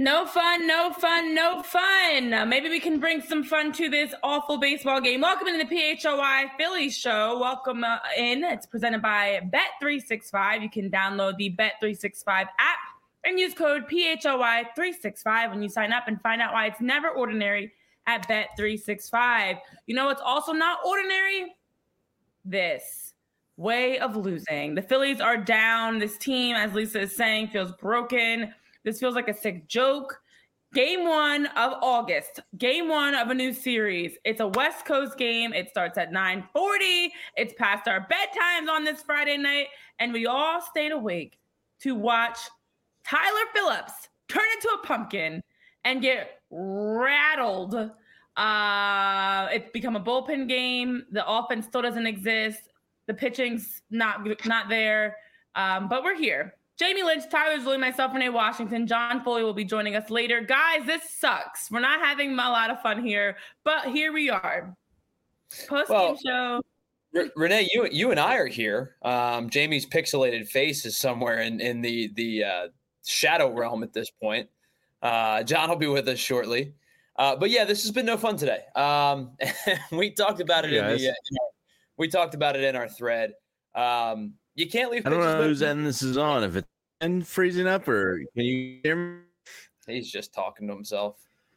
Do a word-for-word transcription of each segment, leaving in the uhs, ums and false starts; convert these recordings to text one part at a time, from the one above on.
No fun, no fun, no fun. Uh, maybe we can bring some fun to this awful baseball game. Welcome into the P H O I Phillies show. Welcome uh, in. It's presented by Bet three sixty-five. You can download the Bet three sixty-five app and use code P H O I three sixty-five when you sign up and find out why it's never ordinary at Bet three sixty-five. You know what's also not ordinary? This way of losing. The Phillies are down. This team, as Lisa is saying, feels broken. This feels like a sick joke. Game one of August. Game one of a new series. It's a West Coast game. It starts at nine forty. It's past our bedtimes on this Friday night. And we all stayed awake to watch Tyler Phillips turn into a pumpkin and get rattled. Uh, it's become a bullpen game. The offense still doesn't exist. The pitching's not, not there. Um, but we're here. Jamie Lynch, Tyler Zulli, myself, Renee Washington, John Foley will be joining us later. Guys, this sucks. We're not having a lot of fun here, but here we are. Post-game well, show. R- Renee, you you and I are here. Um, Jamie's pixelated face is somewhere in, in the, the uh, shadow realm at this point. Uh, John will be with us shortly. Uh, but, yeah, this has been no fun today. Um, we talked about it yes. in the uh, in our, we talked about it in our thread. Um You can't leave. I don't know whose end this is on. If it's end freezing up, or can you hear me? He's just talking to himself.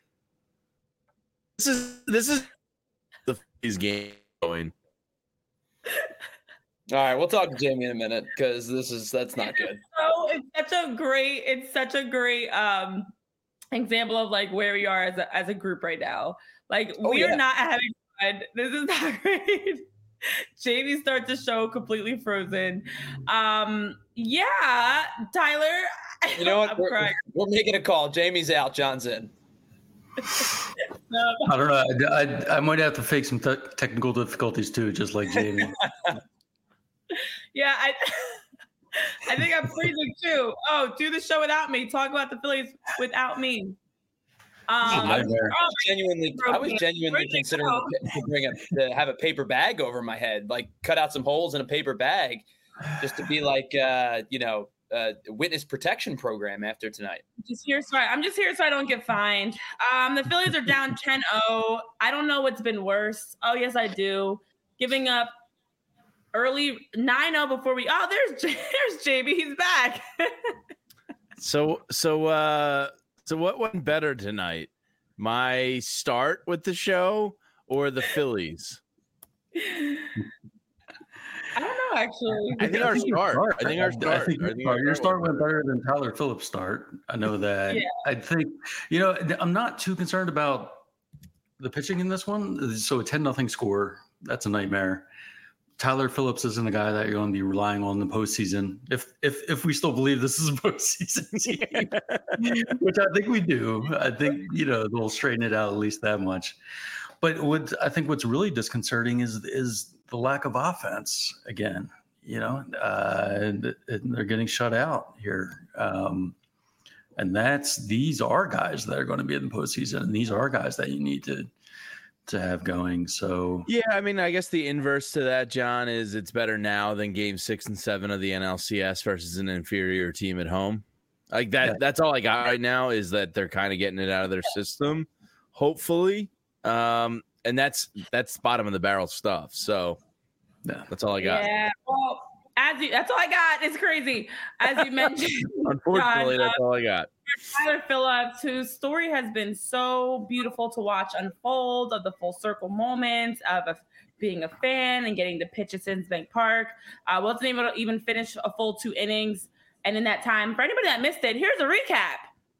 This is this is the Phillies game going. All right, we'll talk to Jamie in a minute because this is that's not good. So it's such a great, it's such a great um example of like where we are as a as a group right now. Like Oh, we are yeah. not having fun. This is not great. Jamie starts the show completely frozen. Um, yeah, Tyler. You know what? I'm We're, crying. we're making a call. Jamie's out. John's in. No. I don't know. I, I, I might have to face some te- technical difficulties too, just like Jamie. Yeah, I, I think I'm freezing too. Oh, do the show without me. Talk about the Phillies without me. Um, I was oh, genuinely, I was genuinely considering to bring a to have a paper bag over my head, like cut out some holes in a paper bag, just to be like, uh, you know, uh, witness protection program after tonight. Just here, so I, I'm just here so I don't get fined. Um, the Phillies are down ten oh. I don't know what's been worse. Oh yes, I do. Giving up early nine oh before we. Oh, there's there's Jamie. He's back. So so uh so what went better tonight? My start with the show or the Phillies? I don't know, actually. I think our start. I think our start. I think I think your our your start start went better than Tyler Phillips' start. I know that. Yeah. I think, you know, I'm not too concerned about the pitching in this one. So a ten nothing score, that's a nightmare. Tyler Phillips isn't a guy that you're going to be relying on in the postseason. If if if we still believe this is a postseason team, which I think we do. I think, you know, they'll straighten it out at least that much. But what I think what's really disconcerting is is the lack of offense again. You know, uh, and, and they're getting shut out here. Um, and that's these are guys that are going to be in the postseason, and these are guys that you need to to have going. So Yeah, I mean, I guess the inverse to that, John, is it's better now than game six and seven of the N L C S versus an inferior team at home. Like that, Yeah. that's all I got right now is that they're kind of getting it out of their system, hopefully. Um, and that's that's bottom of the barrel stuff. So yeah. that's all I got. Yeah, well, as you, that's all I got. It's crazy. As you mentioned, Unfortunately, John, that's all I got. Tyler Phillips, whose story has been so beautiful to watch unfold, of the full circle moments of a, being a fan and getting to pitch at Citizens Bank Park. I uh, wasn't able to even finish a full two innings. And in that time, for anybody that missed it, here's a recap.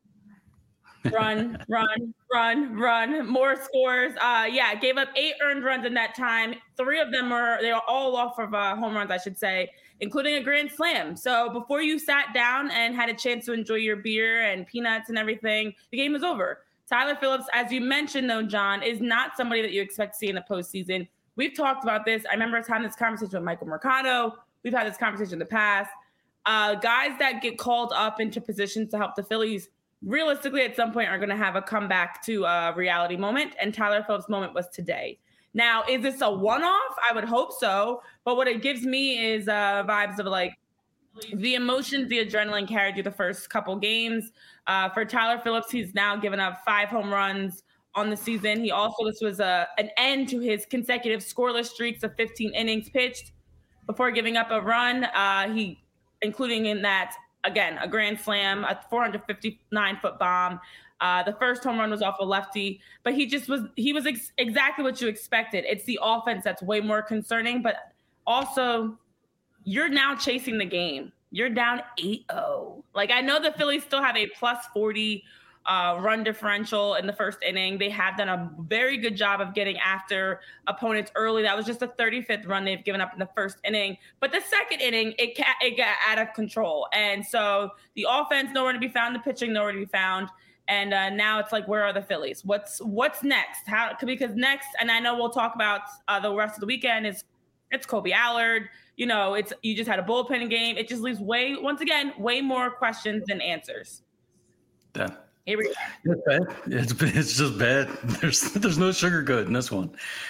Run, run, run, run, more scores. Uh, yeah, gave up eight earned runs in that time. Three of them are, they are all off of uh, home runs, I should say, including a grand slam. So before you sat down and had a chance to enjoy your beer and peanuts and everything, the game was over. Tyler Phillips, as you mentioned, though, John, is not somebody that you expect to see in the postseason. We've talked about this. I remember having this conversation with Michael Mercado. We've had this conversation in the past. Uh, guys that get called up into positions to help the Phillies realistically at some point are going to have a comeback to a reality moment. And Tyler Phillips' moment was today. Now, is this a one-off? I would hope so. But what it gives me is uh, vibes of like, The emotions, the adrenaline carried through the first couple games. Uh, for Tyler Phillips, he's now given up five home runs on the season. He also, this was a, an end to his consecutive scoreless streaks of fifteen innings pitched before giving up a run. Uh, he, including in that, again, a grand slam, a four hundred fifty-nine foot bomb. Uh, the first home run was off a lefty, but he just was, he was ex- exactly what you expected. It's the offense that's way more concerning, but also you're now chasing the game. You're down eight oh. Like, I know the Phillies still have a plus forty uh, run differential in the first inning. They have done a very good job of getting after opponents early. That was just the thirty-fifth run they've given up in the first inning. But the second inning, it, ca- it got out of control. And so the offense nowhere to be found, the pitching nowhere to be found. And uh, now it's like, where are the Phillies? What's what's next? How? Because next, and I know we'll talk about uh, the rest of the weekend, is it's Kobe Allard. You know, it's you just had a bullpen game. It just leaves way, once again, way more questions than answers. Yeah. Here we go. It's bad. It's, it's just bad. There's there's no sugarcoat in this one.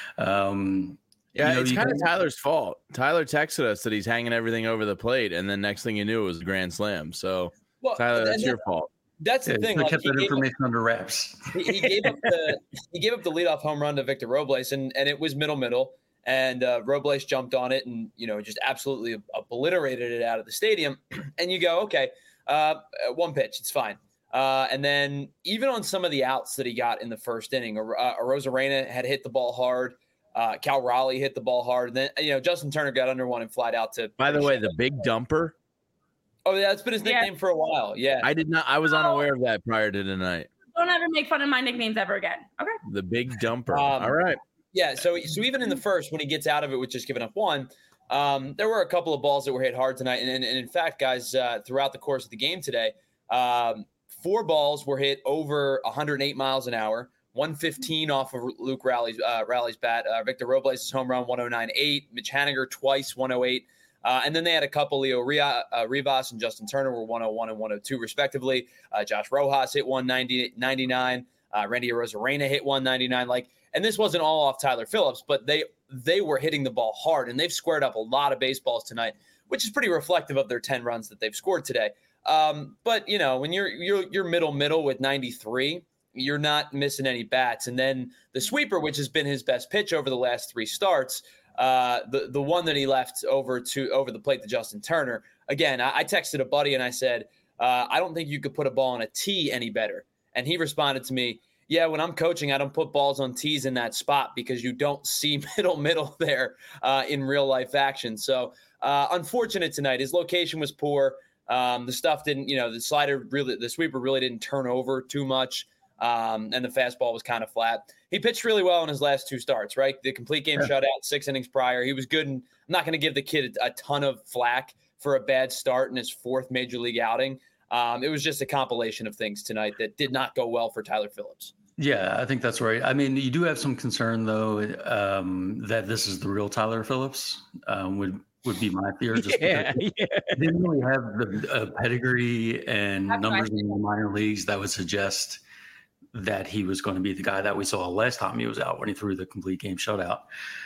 Um, yeah, you know, it's you kind of guys- Tyler's fault. Tyler texted us that he's hanging everything over the plate, and then next thing you knew, it was a grand slam. So, Well, Tyler, that's and your that- fault. That's the yeah, thing. they Like, kept he that gave- information under wraps. he, he gave up the he gave up the leadoff home run to Victor Robles, and and it was middle middle, and uh, Robles jumped on it and you know just absolutely obliterated it out of the stadium. And you go, okay, uh, one pitch, it's fine. Uh, and then even on some of the outs that he got in the first inning, uh, Arozarena had hit the ball hard. Uh, Cal Raleigh hit the ball hard. And then you know Justin Turner got under one and flied out to. By the way, the big dumper. Oh, yeah, that's been his nickname yeah. for a while. Yeah, I did not. I was unaware of that prior to tonight. Don't ever make fun of my nicknames ever again. Okay. The big dumper. Um, All right. Yeah. So, so even in the first, when he gets out of it with just giving up one, um, there were a couple of balls that were hit hard tonight. And, and, and in fact, guys, uh, throughout the course of the game today, um, four balls were hit over one hundred eight miles an hour. one fifteen off of Luke Raleigh's, uh, Raleigh's bat. Uh, Victor Robles' home run, one oh nine point eight. Mitch Haniger twice, one oh eight. Uh, and then they had a couple, Leo uh, Rivas and Justin Turner were one oh one and one oh two, respectively. Uh, Josh Rojas hit one ninety-nine. Uh, Randy Arozarena hit one ninety-nine. Like, and this wasn't all off Tyler Phillips, but they they were hitting the ball hard, and they've squared up a lot of baseballs tonight, which is pretty reflective of their ten runs that they've scored today. Um, but, you know, when you're you're you're middle middle with ninety-three, you're not missing any bats. And then the sweeper, which has been his best pitch over the last three starts, Uh, the the one that he left over to over the plate to Justin Turner. Again, I, I texted a buddy and I said, uh, I don't think you could put a ball on a tee any better. And he responded to me, yeah, when I'm coaching, I don't put balls on tees in that spot because you don't see middle middle there uh, in real life action. So uh, unfortunate tonight. His location was poor. Um, the stuff didn't, you know, the slider really, the sweeper really didn't turn over too much. Um, and the fastball was kind of flat. He pitched really well in his last two starts, right? The complete game yeah. shutout, six innings prior. He was good. And I'm not going to give the kid a, a ton of flack for a bad start in his fourth major league outing. Um, it was just a compilation of things tonight that did not go well for Tyler Phillips. Yeah, I think that's right. I mean, you do have some concern, though, um, that this is the real Tyler Phillips, um, would would be my fear. Just yeah, because yeah. He didn't really have the uh, pedigree and that's numbers in the minor leagues that would suggest that he was going to be the guy that we saw last time he was out when he threw the complete game shutout.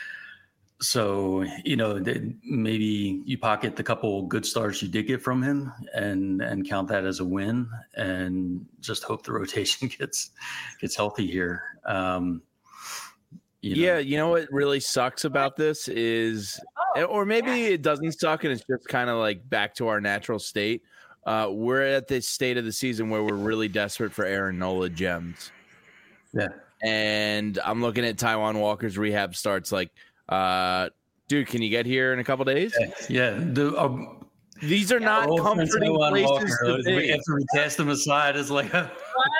So, you know, maybe you pocket the couple good starts you did get from him and and count that as a win and just hope the rotation gets gets healthy here. Um, you know. Yeah, you know what really sucks about this is, or maybe it doesn't suck and it's just kind of like back to our natural state. Uh, we're at this state of the season where we're really desperate for Aaron Nola gems. Yeah. And I'm looking at Taijuan Walker's rehab starts like, uh, dude, can you get here in a couple days? Yeah. yeah. The, um, These are not oh, comforting places Walker, to be. After we cast him aside, it's like, how's,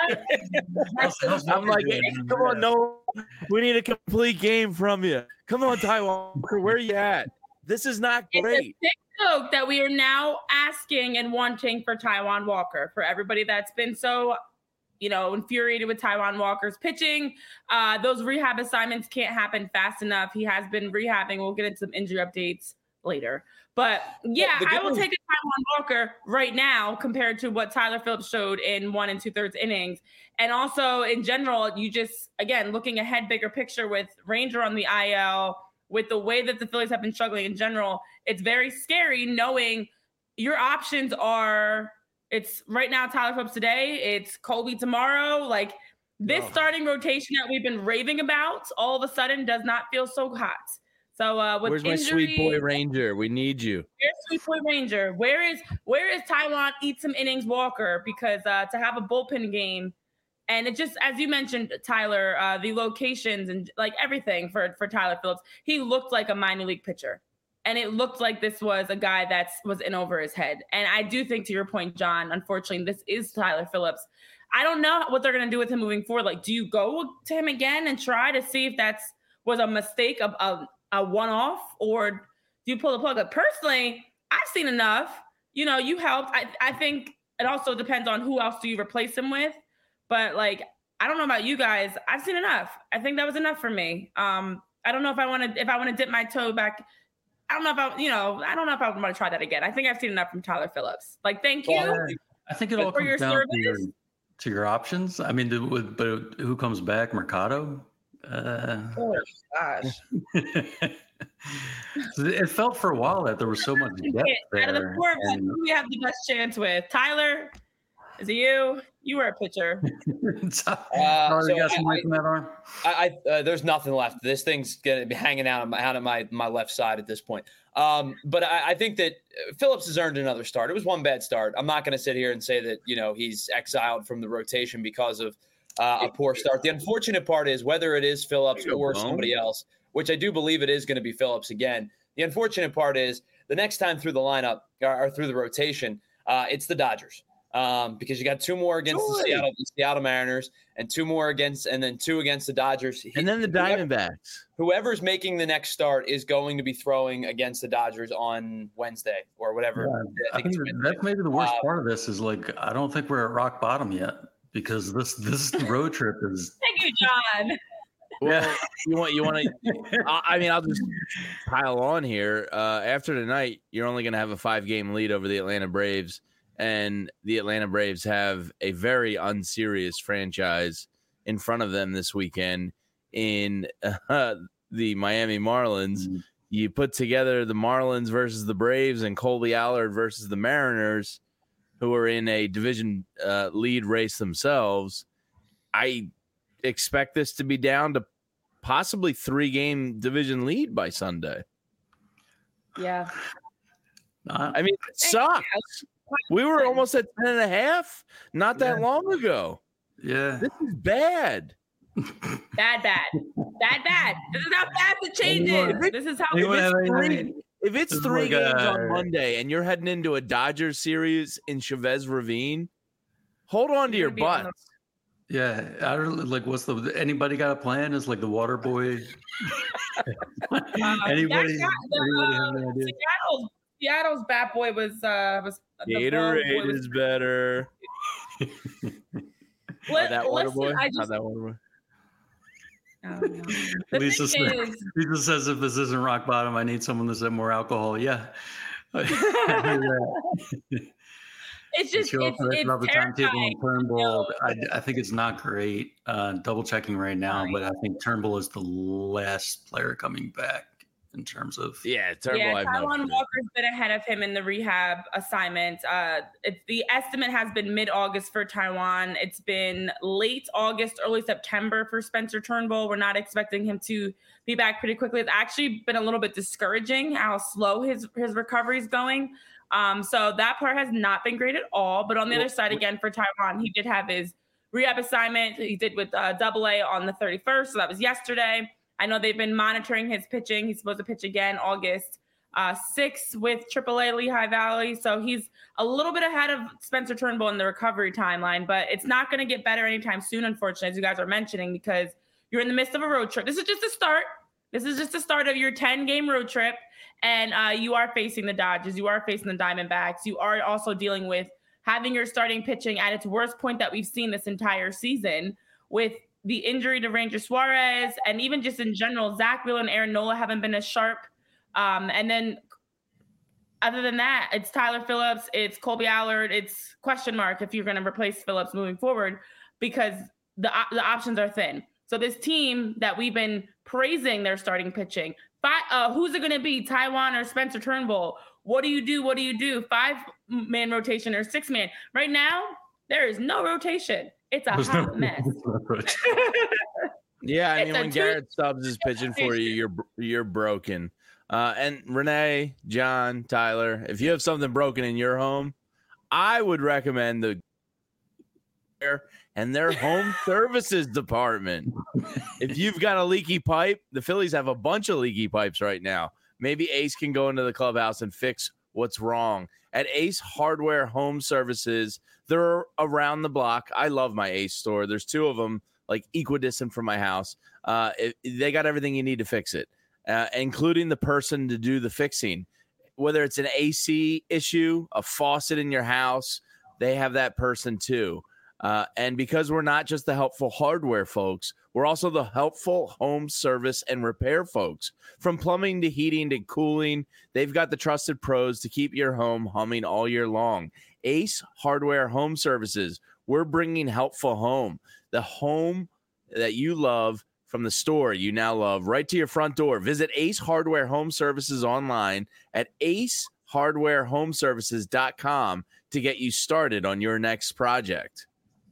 how's I'm like, hey, come on, no, we need a complete game from you. Come on, Taijuan Walker, where are you at? This is not great. Joke that we are now asking and wanting for Taijuan Walker, for everybody that's been so, you know, infuriated with Taijuan Walker's pitching. Uh, those rehab assignments can't happen fast enough. He has been rehabbing. We'll get into some injury updates later. But yeah, I will take a Taijuan Walker right now compared to what Tyler Phillips showed in one and two thirds innings. And also in general, you just, again, looking ahead, bigger picture with Ranger on the I L, with the way that the Phillies have been struggling in general, it's very scary knowing your options are, it's right now Tyler Phillips today, it's Colby tomorrow. Like this oh. starting rotation that we've been raving about all of a sudden does not feel so hot. So uh, with where's injury, my sweet boy Ranger? We need you. Where's sweet boy Ranger? Where is where is Taijuan eat some innings Walker? Because uh, to have a bullpen game, and it just, as you mentioned, Tyler, uh, the locations and like everything for for Tyler Phillips, he looked like a minor league pitcher, and it looked like this was a guy that was in over his head. And I do think, to your point, John, unfortunately, this is Tyler Phillips. I don't know what they're going to do with him moving forward. Like, do you go to him again and try to see if that's was a mistake of a, a one-off, or do you pull the plug? Like, personally, I've seen enough. You know, you helped. I, I think it also depends on who else do you replace him with. But, like, I don't know about you guys. I've seen enough. I think that was enough for me. Um, I don't know if I want to if I want to dip my toe back. I don't know if I, you know, I don't know if I want to try that again. I think I've seen enough from Tyler Phillips. Like, thank you. Well, I think it all comes your down service. to your, to your options. I mean, the, but who comes back? Mercado? Uh, oh, gosh. It felt for a while that there was so much depth there. Out of the four of us, and, who do we have the best chance with? Tyler? Is it you? You were a pitcher. so, uh, so got some I, from that arm? I, I uh, there's nothing left. This thing's gonna be hanging out of my, out of my my left side at this point. Um, but I, I think that Phillips has earned another start. It was one bad start. I'm not going to sit here and say that you know he's exiled from the rotation because of uh, a poor start. The unfortunate part is whether it is Phillips or somebody else, which I do believe it is going to be Phillips again. The unfortunate part is the next time through the lineup or, or through the rotation, uh, it's the Dodgers. Um, because you got two more against the Seattle, the Seattle Mariners, and two more against, and then two against the Dodgers, and then the Diamondbacks. Whoever's making the next start is going to be throwing against the Dodgers on Wednesday or whatever. Yeah, I, I think, think that's maybe the worst uh, part of this is like I don't think we're at rock bottom yet because this this road trip is. Thank you, John. Well, yeah. you want you want to. I mean, I'll just pile on here. Uh, after tonight, you're only going to have a five game lead over the Atlanta Braves. And the Atlanta Braves have a very unserious franchise in front of them this weekend in uh, the Miami Marlins. Mm-hmm. You put together the Marlins versus the Braves and Colby Allard versus the Mariners, who are in a division uh, lead race themselves. I expect this to be down to possibly three-game division lead by Sunday. Yeah. I mean, it sucks. We were almost at ten and a half not that yeah. long ago. Yeah. This is bad. Bad, bad. Bad, bad. This is how fast it changes. It, this is how if it's three, it if it's three games on Monday and you're heading into a Dodgers series in Chavez Ravine, hold on to your butts. Yeah. I don't like what's the anybody got a plan? Is like the water boy. um, anybody, got, anybody uh, have an idea? Seattle's, Seattle's bat boy was uh was Gatorade is better. Let, that water boy? I just, How that water boy? Oh, no. Lisa, says, is, Lisa says, if this isn't rock bottom, I need someone to send more alcohol. Yeah. It's just, it's, it's about the timetable on Turnbull. No. I, I think it's not great. Uh, double checking right now, right. But I think Turnbull is the last player coming back. In terms of yeah, Turnbull, yeah, Taijuan Walker's been ahead of him in the rehab assignment. Uh, it's the estimate has been mid-August for Taijuan. It's been late August, early September for Spencer Turnbull. We're not expecting him to be back pretty quickly. It's actually been a little bit discouraging how slow his his recovery is going. Um, so that part has not been great at all. But on the other side, again for Taijuan, he did have his rehab assignment. He did with uh, Double A on the thirty-first, so that was yesterday. I know they've been monitoring his pitching. He's supposed to pitch again August uh, sixth with triple A Lehigh Valley. So he's a little bit ahead of Spencer Turnbull in the recovery timeline, but it's not going to get better anytime soon, unfortunately, as you guys are mentioning, because you're in the midst of a road trip. This is just a start. This is just the start of your ten-game road trip, and uh, you are facing the Dodgers. You are facing the Diamondbacks. You are also dealing with having your starting pitching at its worst point that we've seen this entire season with the injury to Ranger Suarez, and even just in general, Zach Wheeler and Aaron Nola haven't been as sharp. Um, and then other than that, it's Tyler Phillips, it's Colby Allard, it's question mark if you're going to replace Phillips moving forward because the the options are thin. So this team that we've been praising their starting pitching, but, uh, who's it going to be, Taijuan or Spencer Turnbull? What do you do? What do you do? Five-man rotation or six-man. Right now, there is no rotation. It's a There's hot no, mess. Yeah, I mean, when Garrett Stubbs is pitching for you, you're you're broken. Uh, and Renee, John, Tyler, if you have something broken in your home, I would recommend the and their home services department. If you've got a leaky pipe, the Phillies have a bunch of leaky pipes right now. Maybe Ace can go into the clubhouse and fix what's wrong. At Ace Hardware Home Services, they're around the block. I love my Ace store. There's two of them, like equidistant from my house. Uh, it, they got everything you need to fix it, uh, including the person to do the fixing. Whether it's an A C issue, a faucet in your house, they have that person too. Uh, and because we're not just the helpful hardware folks, we're also the helpful home service and repair folks. From plumbing to heating to cooling, they've got the trusted pros to keep your home humming all year long. Ace Hardware Home Services. We're bringing helpful home, the home that you love from the store you now love, right to your front door. Visit Ace Hardware Home Services online at ace hardware home services dot com to get you started on your next project.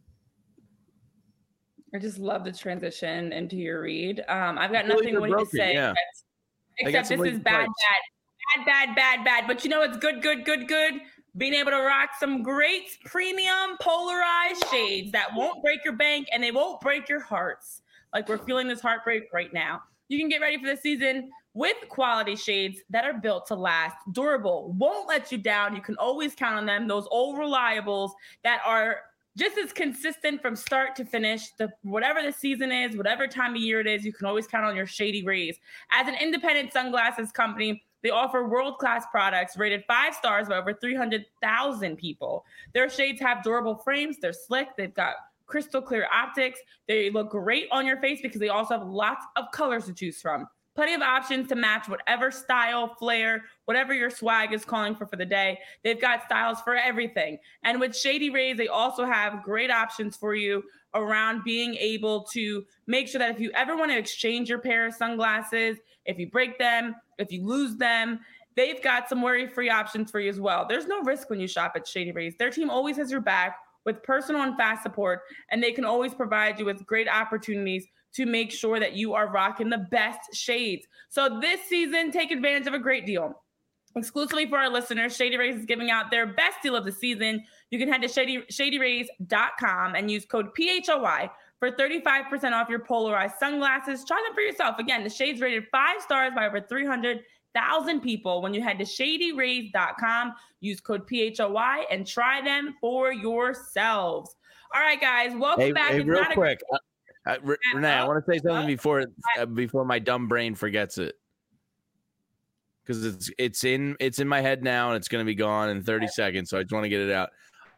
I just love the transition into your read. Um, I've got nothing more to say, yeah. except, except this is bad, bad, bad, bad, bad, bad. But you know it's good, good, good, good. Being able to rock some great premium polarized shades that won't break your bank and they won't break your hearts. Like we're feeling this heartbreak right now. You can get ready for the season with quality shades that are built to last, durable, won't let you down. You can always count on them. Those old reliables that are just as consistent from start to finish. The whatever the season is, whatever time of year it is, you can always count on your Shady Rays. As an independent sunglasses company, they offer world-class products rated five stars by over three hundred thousand people. Their shades have durable frames. They're slick. They've got crystal clear optics. They look great on your face because they also have lots of colors to choose from. Plenty of options to match whatever style, flair, whatever your swag is calling for for the day. They've got styles for everything. And with Shady Rays, they also have great options for you around being able to make sure that if you ever want to exchange your pair of sunglasses, if you break them, if you lose them, they've got some worry-free options for you as well. There's no risk when you shop at Shady Rays. Their team always has your back with personal and fast support, and they can always provide you with great opportunities to make sure that you are rocking the best shades. So this season, take advantage of a great deal. Exclusively for our listeners, Shady Rays is giving out their best deal of the season. You can head to shady, shady rays dot com and use code P H O Y for thirty-five percent off your polarized sunglasses. Try them for yourself. Again, the shades rated five stars by over three hundred thousand people. When you head to shady rays dot com, use code P H O Y and try them for yourselves. All right, guys, welcome hey, back. Hey, it's real not quick. A- Uh, R- Renee, I want to say something before uh, before my dumb brain forgets it, because it's it's in it's in my head now and it's going to be gone in thirty seconds. So I just want to get it out.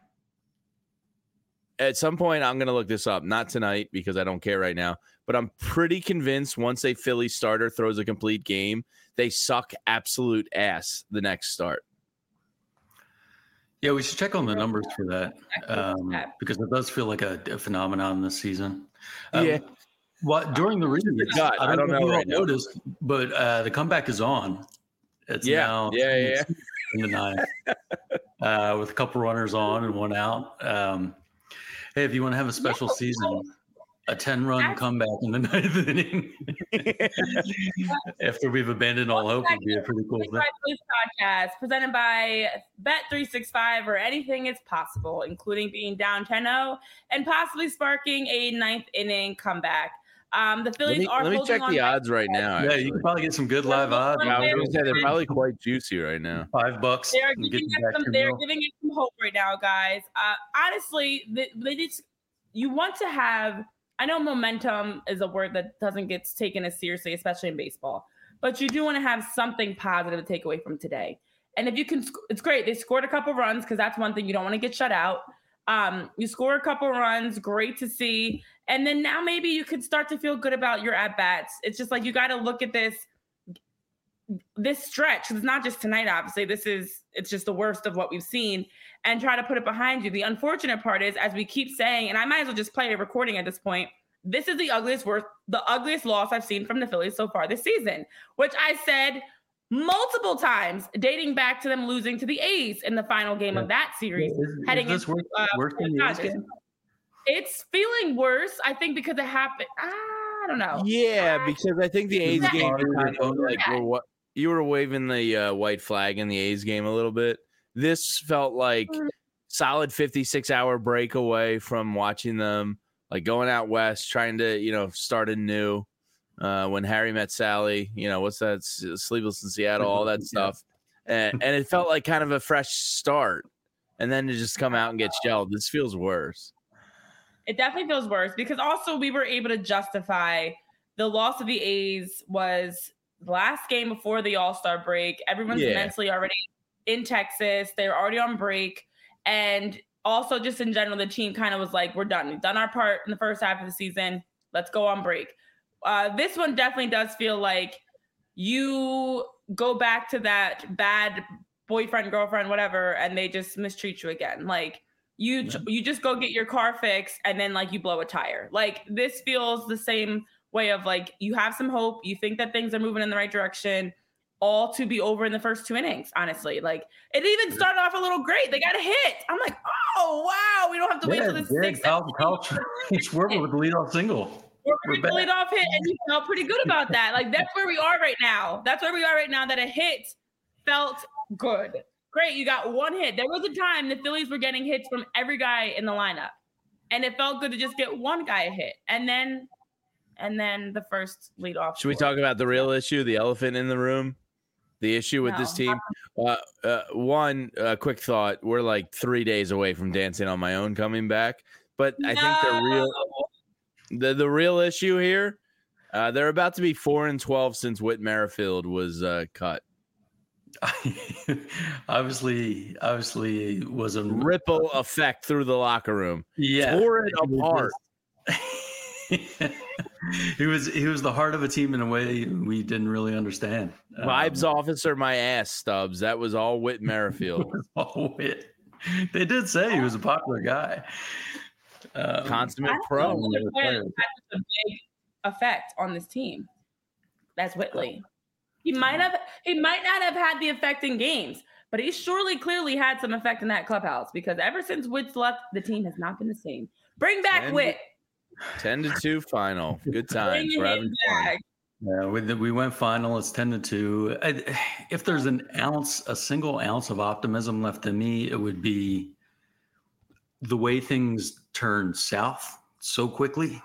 At some point, I'm going to look this up. Not tonight because I don't care right now. But I'm pretty convinced once a Philly starter throws a complete game, they suck absolute ass the next start. Yeah, we should check on the numbers for that um, because it does feel like a, a phenomenon this season. Um, yeah. What during the reading, God, I don't, I don't know, know right noticed, but uh, the comeback is on. It's yeah, now yeah, yeah. in the ninth uh, with a couple runners on and one out. Um, hey, if you want to have a special yeah. season, a ten-run comeback in the ninth inning after we've abandoned all hope would be a pretty cool thing. Podcast presented by Bet three sixty-five, where anything is possible, including being down ten oh and possibly sparking a ninth inning comeback. Um, the Phillies let me, are. Let me check the odds right now. Actually. Yeah, you can probably get some good live odds. Yeah, I was going to say they're probably quite juicy right now. Five bucks. They're giving it some. They're giving it some hope right now, guys. Uh, honestly, they, they just you want to have. I know momentum is a word that doesn't get taken as seriously, especially in baseball, but you do want to have something positive to take away from today. And if you can, it's great. They scored a couple runs because that's one thing. You don't want to get shut out. Um, you score a couple runs, great to see. And then now maybe you can start to feel good about your at-bats. It's just like you got to look at this, this stretch. It's not just tonight, obviously. This is, it's just the worst of what we've seen, and try to put it behind you. The unfortunate part is, as we keep saying, and I might as well just play a recording at this point, this is the ugliest worst, the ugliest loss I've seen from the Phillies so far this season, which I said multiple times, dating back to them losing to the A's in the final game yeah. of that series. Is, heading is this into, worse, uh, worse than the A's game? It's feeling worse, I think, because it happened. I don't know. Yeah, I, because I think the A's game kind of like yeah. were what you were waving the uh, white flag in the A's game a little bit. This felt like solid fifty-six hour break away from watching them, like going out west, trying to, you know, start anew. Uh, when Harry Met Sally, you know, what's that? Sleepless in Seattle, all that stuff. And, and it felt like kind of a fresh start. And then to just come out and get shelled, this feels worse. It definitely feels worse because also we were able to justify the loss of the A's was the last game before the All-Star break. Everyone's yeah. mentally already in Texas. They're already on break. And also just in general, the team kind of was like, we're done. We've done our part in the first half of the season. Let's go on break. Uh, this one definitely does feel like you go back to that bad boyfriend, girlfriend, whatever, and they just mistreat you again. Like you, yeah. you just go get your car fixed and then like you blow a tire. Like this feels the same way of like, you have some hope. You think that things are moving in the right direction, all to be over in the first two innings. Honestly, like it even started off a little great. They got a hit. I'm like, oh wow, we don't have to wait yeah, till the sixth. Kyle Schwarber with the leadoff single. We're a lead off hit, and you felt pretty good about that. Like that's where we are right now. That's where we are right now. That a hit felt good. Great, you got one hit. There was a time the Phillies were getting hits from every guy in the lineup, and it felt good to just get one guy a hit, and then, and then the first lead off. Should we talk about the real issue, the elephant in the room, the issue with no. this team? Uh, uh, one uh, quick thought: we're like three days away from Dancing on My Own coming back, but I no. think the real. The the real issue here, uh, they're about to be four and twelve since Whit Merrifield was uh, cut. obviously, obviously, it was a ripple effect through the locker room. Yeah, tore it apart. he was he was the heart of a team in a way we didn't really understand. Vibes um, officer, my ass, Stubbs. That was all Whit Merrifield. all Whit. They did say he was a popular guy. Um, Consummate pro. That's a big effect on this team. That's Whitley. He might have, he might not have had the effect in games, but he surely, clearly had some effect in that clubhouse because ever since Whit's left, the team has not been the same. Bring back ten, Whit. Ten to two final. Good times. We're having fun. Yeah, we we went final. It's ten to two. I, if there's an ounce, a single ounce of optimism left in me, it would be the way things turn south so quickly.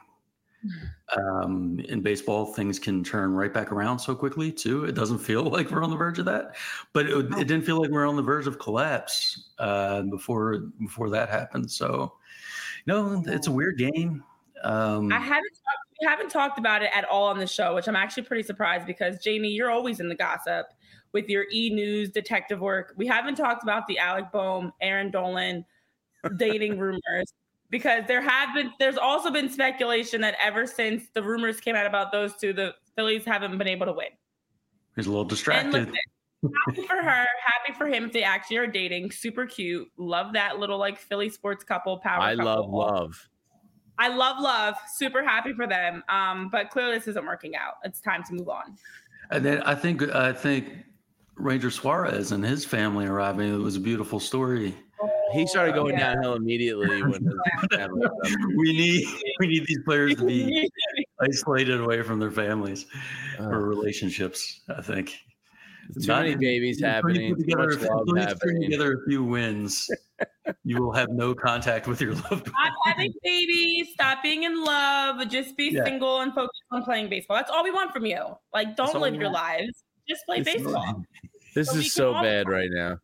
Um, in baseball, things can turn right back around so quickly too. It doesn't feel like we're on the verge of that, but it, it didn't feel like we're on the verge of collapse uh, before before that happened. So, no, it's a weird game. Um, I haven't talked, we haven't talked about it at all on the show, which I'm actually pretty surprised because Jamie, you're always in the gossip with your E! News detective work. We haven't talked about the Alec Bohm, Aaron Dolan dating rumors because there have been there's also been speculation that ever since the rumors came out about those two, the Phillies haven't been able to win. He's a little distracted. And listen, happy for her, happy for him if they actually are dating. Super cute. Love that little like Philly sports couple power. I couple. love love. I love love. Super happy for them. Um, but clearly this isn't working out. It's time to move on. And then I think I think Ranger Suarez and his family arriving. It was a beautiful story. He started going yeah. downhill immediately when his family we need we need these players to be isolated away from their families uh, or relationships. I think too Not, many babies happening. Put together, too much love please happening. Put together a few wins. You will have no contact with your loved ones. Stop having babies. Stop being in love. Just be yeah. single and focus on playing baseball. That's all we want from you. Like, don't live your lives. Just play this baseball. This so is so bad right now.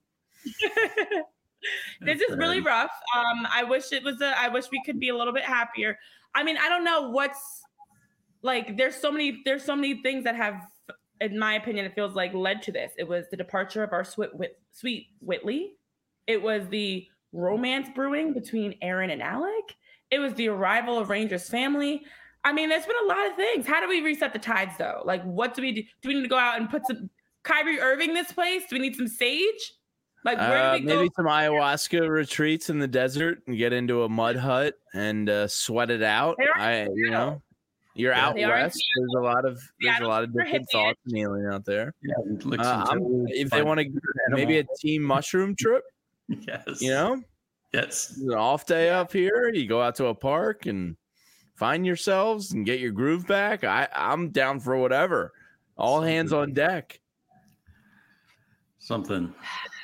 This is really rough. Um, I wish it was a, I wish we could be a little bit happier. I mean, I don't know what's like, there's so many, there's so many things that have, in my opinion, it feels like led to this. It was the departure of our sweet, Whit, sweet Whitley. It was the romance brewing between Aaron and Alec. It was the arrival of Rangers family. I mean, there's been a lot of things. How do we reset the tides though? Like, what do we do? Do we need to go out and put some Kyrie Irving this place? Do we need some sage? Like, where uh, do we go? Maybe some ayahuasca retreats in the desert and get into a mud hut and uh, sweat it out. I, you know, You're Yeah, out they are in west. There's a lot of there's a Seattle lot of for different Hitman. thoughts and healing out there. Yeah, like Uh, some I'm- toads, if they find want to, an maybe a animal. team mushroom trip. Yes. You know, Yes. an off day up here. You go out to a park and find yourselves and get your groove back. I I'm down for whatever. All hands Something. on deck. Something.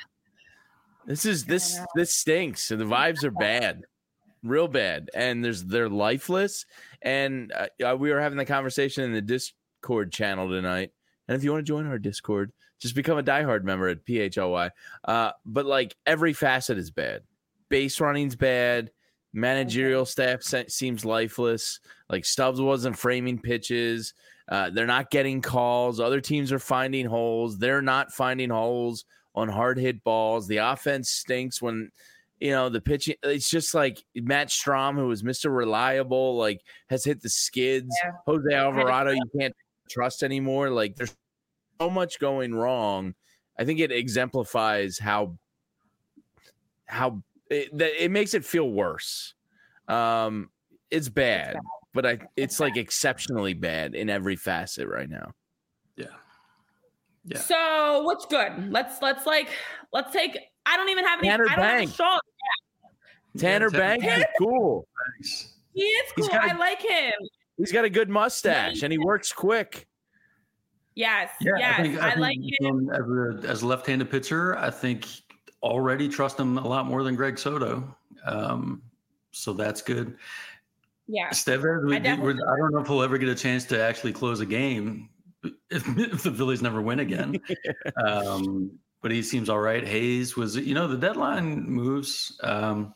This is this this stinks. The vibes are bad, real bad, and there's they're lifeless. And uh, we were having the conversation in the Discord channel tonight. And if you want to join our Discord, just become a diehard member at P H L Y. Uh, but like every facet is bad. Base running's bad. Managerial staff se- seems lifeless. Like Stubbs wasn't framing pitches. Uh, they're not getting calls. Other teams are finding holes. They're not finding holes on hard hit balls. The offense stinks when, you know, the pitching. It's just like Matt Strom, who was Mister Reliable, like has hit the skids. Yeah. Jose Alvarado, you can't trust anymore. Like there's so much going wrong. I think it exemplifies how how it, that it makes it feel worse. Um, it's bad, bad. but I it's like exceptionally bad in every facet right now. Yeah. Yeah. So what's good? Let's let's like let's take. I don't even have any. Tanner I don't Banks. have a shot. Tanner Yeah, Banks is Tanner- cool. Thanks. He is He's cool. got a- I like him. He's got a good mustache and he works quick. Yes. Yeah, yes. I, think, I, I, like think him. um, as, a, as a left-handed pitcher, I think already trust him a lot more than Greg Soto. Um, so that's good. Yeah. Estevez, we, I definitely- we- I don't know if he'll ever get a chance to actually close a game if, if the Phillies never win again. um, but he seems all right. Hayes was, you know, the deadline moves. Um,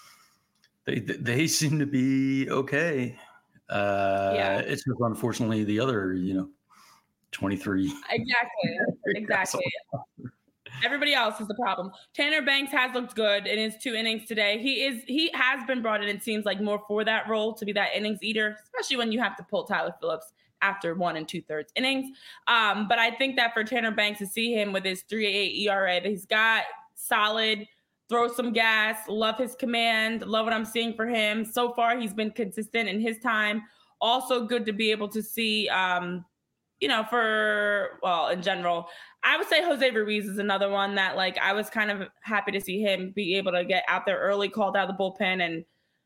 they they seem to be okay. Uh, Yeah. It's just unfortunately the other, you know, twenty-three. Exactly. Exactly. Everybody else is the problem. Tanner Banks has looked good in his two innings today. He is he has been brought in, it seems like, more for that role, to be that innings eater, especially when you have to pull Tyler Phillips after one and two thirds innings. Um, but I think that for Tanner Banks to see him with his three point eight E R A, that he's got solid, throw some gas, love his command, love what I'm seeing for him. So far, he's been consistent in his time. Also good to be able to see, um, you know, for, well, in general, I would say Jose Ruiz is another one that, like, I was kind of happy to see him be able to get out there early, called out of the bullpen, and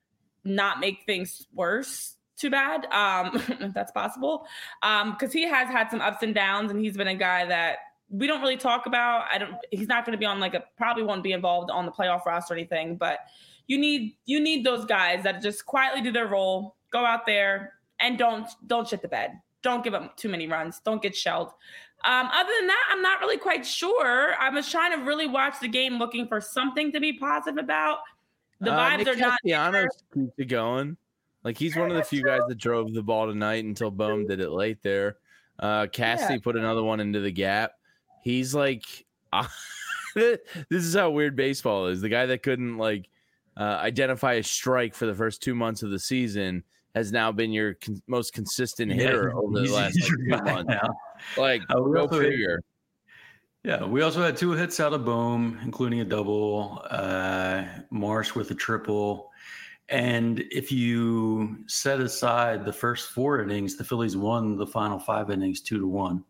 not make things worse too bad, um, if that's possible. Um, because he has had some ups and downs, and he's been a guy that we don't really talk about. I don't. He's not going to be on like a probably won't be involved on the playoff roster or anything. But you need you need those guys that just quietly do their role, go out there and don't don't shit the bed. Don't give up too many runs. Don't get shelled. Um, other than that, I'm not really quite sure. I was trying to really watch the game, looking for something to be positive about. The Uh, vibes Nick are not there. Castellanos keeps it going. Like he's one of the few guys that drove the ball tonight until Bohm did it late there. Uh, Cassie Yeah. put another one into the gap. He's like, this is how weird baseball is. The guy that couldn't like uh, identify a strike for the first two months of the season has now been your con- most consistent hitter Yeah, over the he's- last he's like, two your guy months. now. Like, Uh, we go also had- figure. Yeah, we also had two hits out of Bohm, including a double, uh, Marsh with a triple. And if you set aside the first four innings, the Phillies won the final five innings two to one.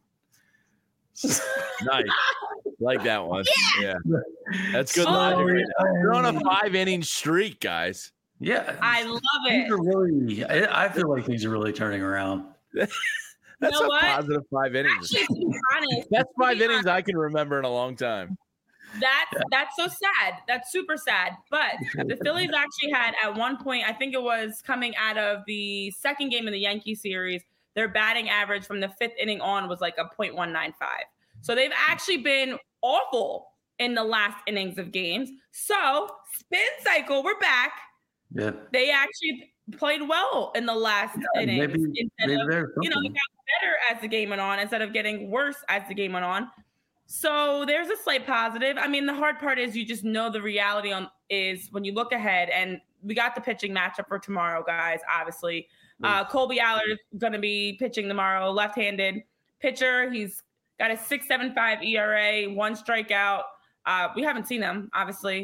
Nice. Like that one. Yeah. That's good. Oh, logic. You're on a um, five inning streak, guys. Yeah, I love these it. are really. I, I feel like things are really turning around. That's know a what? positive five innings. Actually, to be honest, That's to five be innings I can remember in a long time. That's that's so sad. That's super sad. But the Phillies actually had at one point, I think it was coming out of the second game in the Yankee series, their batting average from the fifth inning on was like a point one nine five. So they've actually been awful in the last innings of games. So spin cycle, we're back. Yeah, They actually played well in the last Yeah, innings maybe- instead maybe of, there's you know, it something. got better as the game went on instead of getting worse as the game went on. So there's a slight positive. I mean, the hard part is you just know the reality on is when you look ahead, and we got the pitching matchup for tomorrow, guys. Obviously, uh, Colby Allard is going to be pitching tomorrow, left-handed pitcher. He's got a six point seven five E R A, one strikeout. Uh, we haven't seen him, obviously.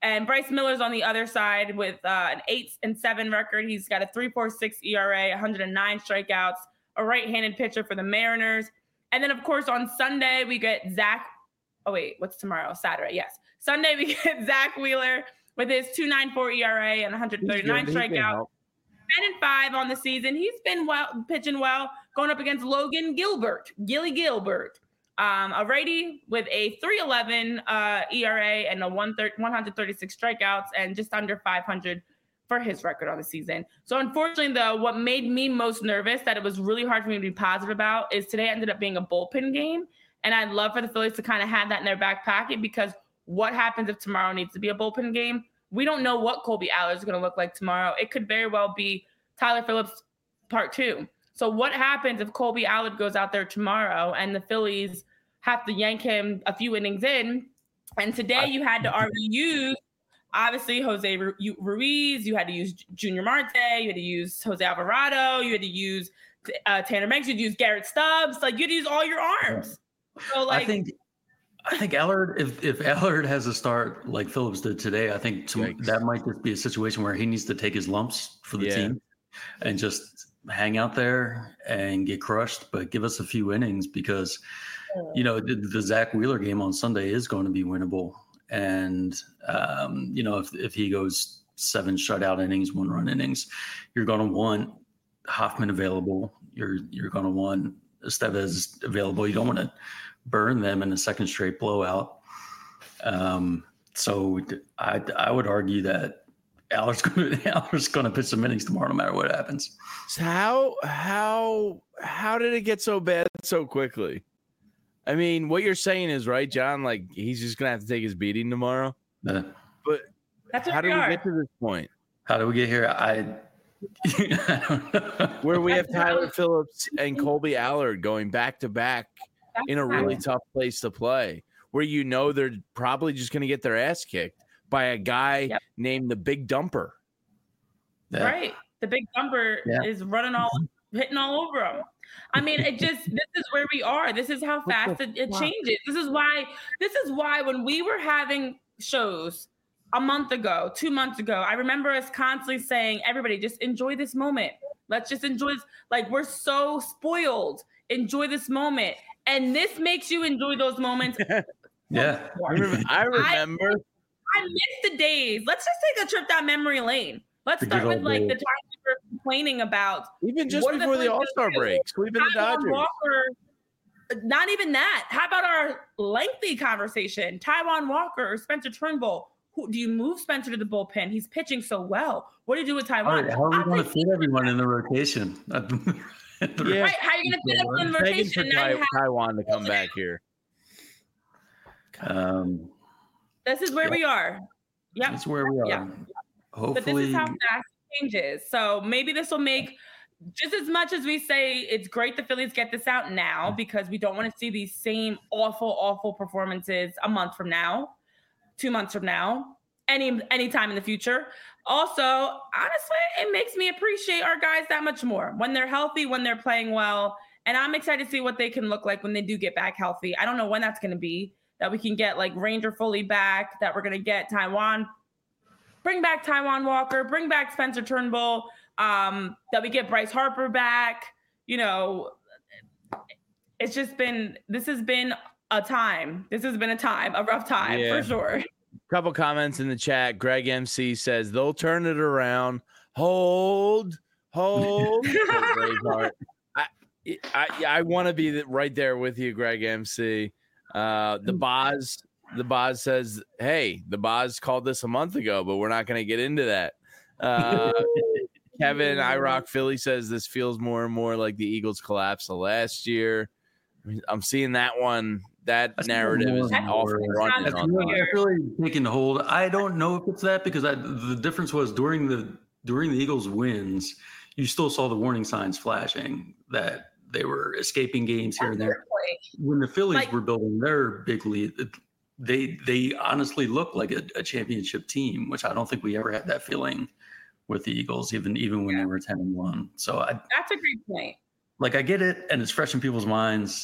And Bryce Miller's on the other side with uh, an eight and seven record. He's got a three point four six E R A, one hundred nine strikeouts, a right-handed pitcher for the Mariners. And then, of course, on Sunday, we get Zach. Oh, wait, what's tomorrow? Saturday, yes. Sunday, we get Zach Wheeler with his two point nine four E R A and one hundred thirty-nine strikeouts. ten and five on the season. He's been well, pitching well, going up against Logan Gilbert, Gilly Gilbert, um, a righty with a three eleven uh, E R A and a one hundred thirty-six strikeouts and just under five hundred for his record on the season. So unfortunately, though, what made me most nervous that it was really hard for me to be positive about is today ended up being a bullpen game. And I'd love for the Phillies to kind of have that in their back pocket, because what happens if tomorrow needs to be a bullpen game? We don't know what Kolby Allard is going to look like tomorrow. It could very well be Tyler Phillips part two. So what happens if Kolby Allard goes out there tomorrow and the Phillies have to yank him a few innings in? And today you had to already use, obviously, Jose Ruiz. You had to use Junior Marte. You had to use Jose Alvarado. You had to use uh, Tanner Banks. You had to use Garrett Stubbs. Like, you had to use all your arms. So, like, I think I think Allard, if if Allard has a start like Phillips did today, I think to, that might just be a situation where he needs to take his lumps for the yeah. team and just hang out there and get crushed, but give us a few innings, because, you know, the, the Zach Wheeler game on Sunday is going to be winnable. And, um, you know, if, if he goes seven shutout innings, one run innings, you're going to want Hoffman available. You're, you're going to want Estevez available. You don't want to burn them in a second straight blowout. Um, so I, I would argue that Allard's going to Allard's going to pitch some innings tomorrow, no matter what happens. So how how how did it get so bad so quickly? I mean, what you're saying is right, John. Like, he's just going to have to take his beating tomorrow. Uh, but That's how did we, we get to this point? How did we get here? I. I don't know. Where we have Tyler Phillips and Kolby Allard going back to back in a really tough place to play, where you know they're probably just going to get their ass kicked by a guy yep. named the Big Dumper. Yeah. Right. The Big Dumper yeah. is running all, hitting all over them. I mean, it just, this is where we are. This is how fast it, it changes. This is why, this is why when we were having shows a month ago, two months ago, I remember us constantly saying, everybody just enjoy this moment. Let's just enjoy this. Like, we're so spoiled. Enjoy this moment. And this makes you enjoy those moments. yeah. I remember. I, remember. I, I miss the days. Let's just take a trip down memory lane. Let's start with like days. the time we were complaining about. Even just before the, the All-Star break, sweeping the Dodgers. Walker, not even that. How about our lengthy conversation? Taijuan Walker or Spencer Turnbull. Who, do you move Spencer to the bullpen? He's pitching so well. What do you do with Taijuan? Right, how are we going to fit everyone in the rotation? Yeah. Right, how are you going to fit everyone in the rotation? Now you have Taijuan to come back here. Um, this is where yeah. we are. Yep. That's where we are. Yeah. Hopefully. But this is how fast it changes. So maybe this will make, just as much as we say it's great the Phillies get this out now, because we don't want to see these same awful, awful performances a month from now, two months from now, any anytime in the future. Also, honestly, it makes me appreciate our guys that much more when they're healthy, when they're playing well. And I'm excited to see what they can look like when they do get back healthy. I don't know when that's going to be, that we can get like Ranger fully back, that we're going to get Taijuan, bring back Taijuan Walker, bring back Spencer Turnbull, um, that we get Bryce Harper back. You know, it's just been, this has been a time. This has been a time, a rough time yeah. for sure. Couple comments in the chat. Greg M C says they'll turn it around. Hold, hold. I, I, I want to be right there with you, Greg M C. Uh, the Boz, the Boz says, "Hey, the Boz called this a month ago, but we're not going to get into that." Uh, Kevin I Rock Philly says this feels more and more like the Eagles collapse of last year. I'm seeing that one. That That's narrative is off and running. That's really, that's really taking hold. I don't know if it's that, because I, the difference was during the during the Eagles' wins, you still saw the warning signs flashing that they were escaping games here and there. When the Phillies like, were building their big lead, they they honestly looked like a, a championship team, which I don't think we ever had that feeling with the Eagles, even even when yeah. they were ten and one. So I, that's a great point. Like, I get it, and it's fresh in people's minds.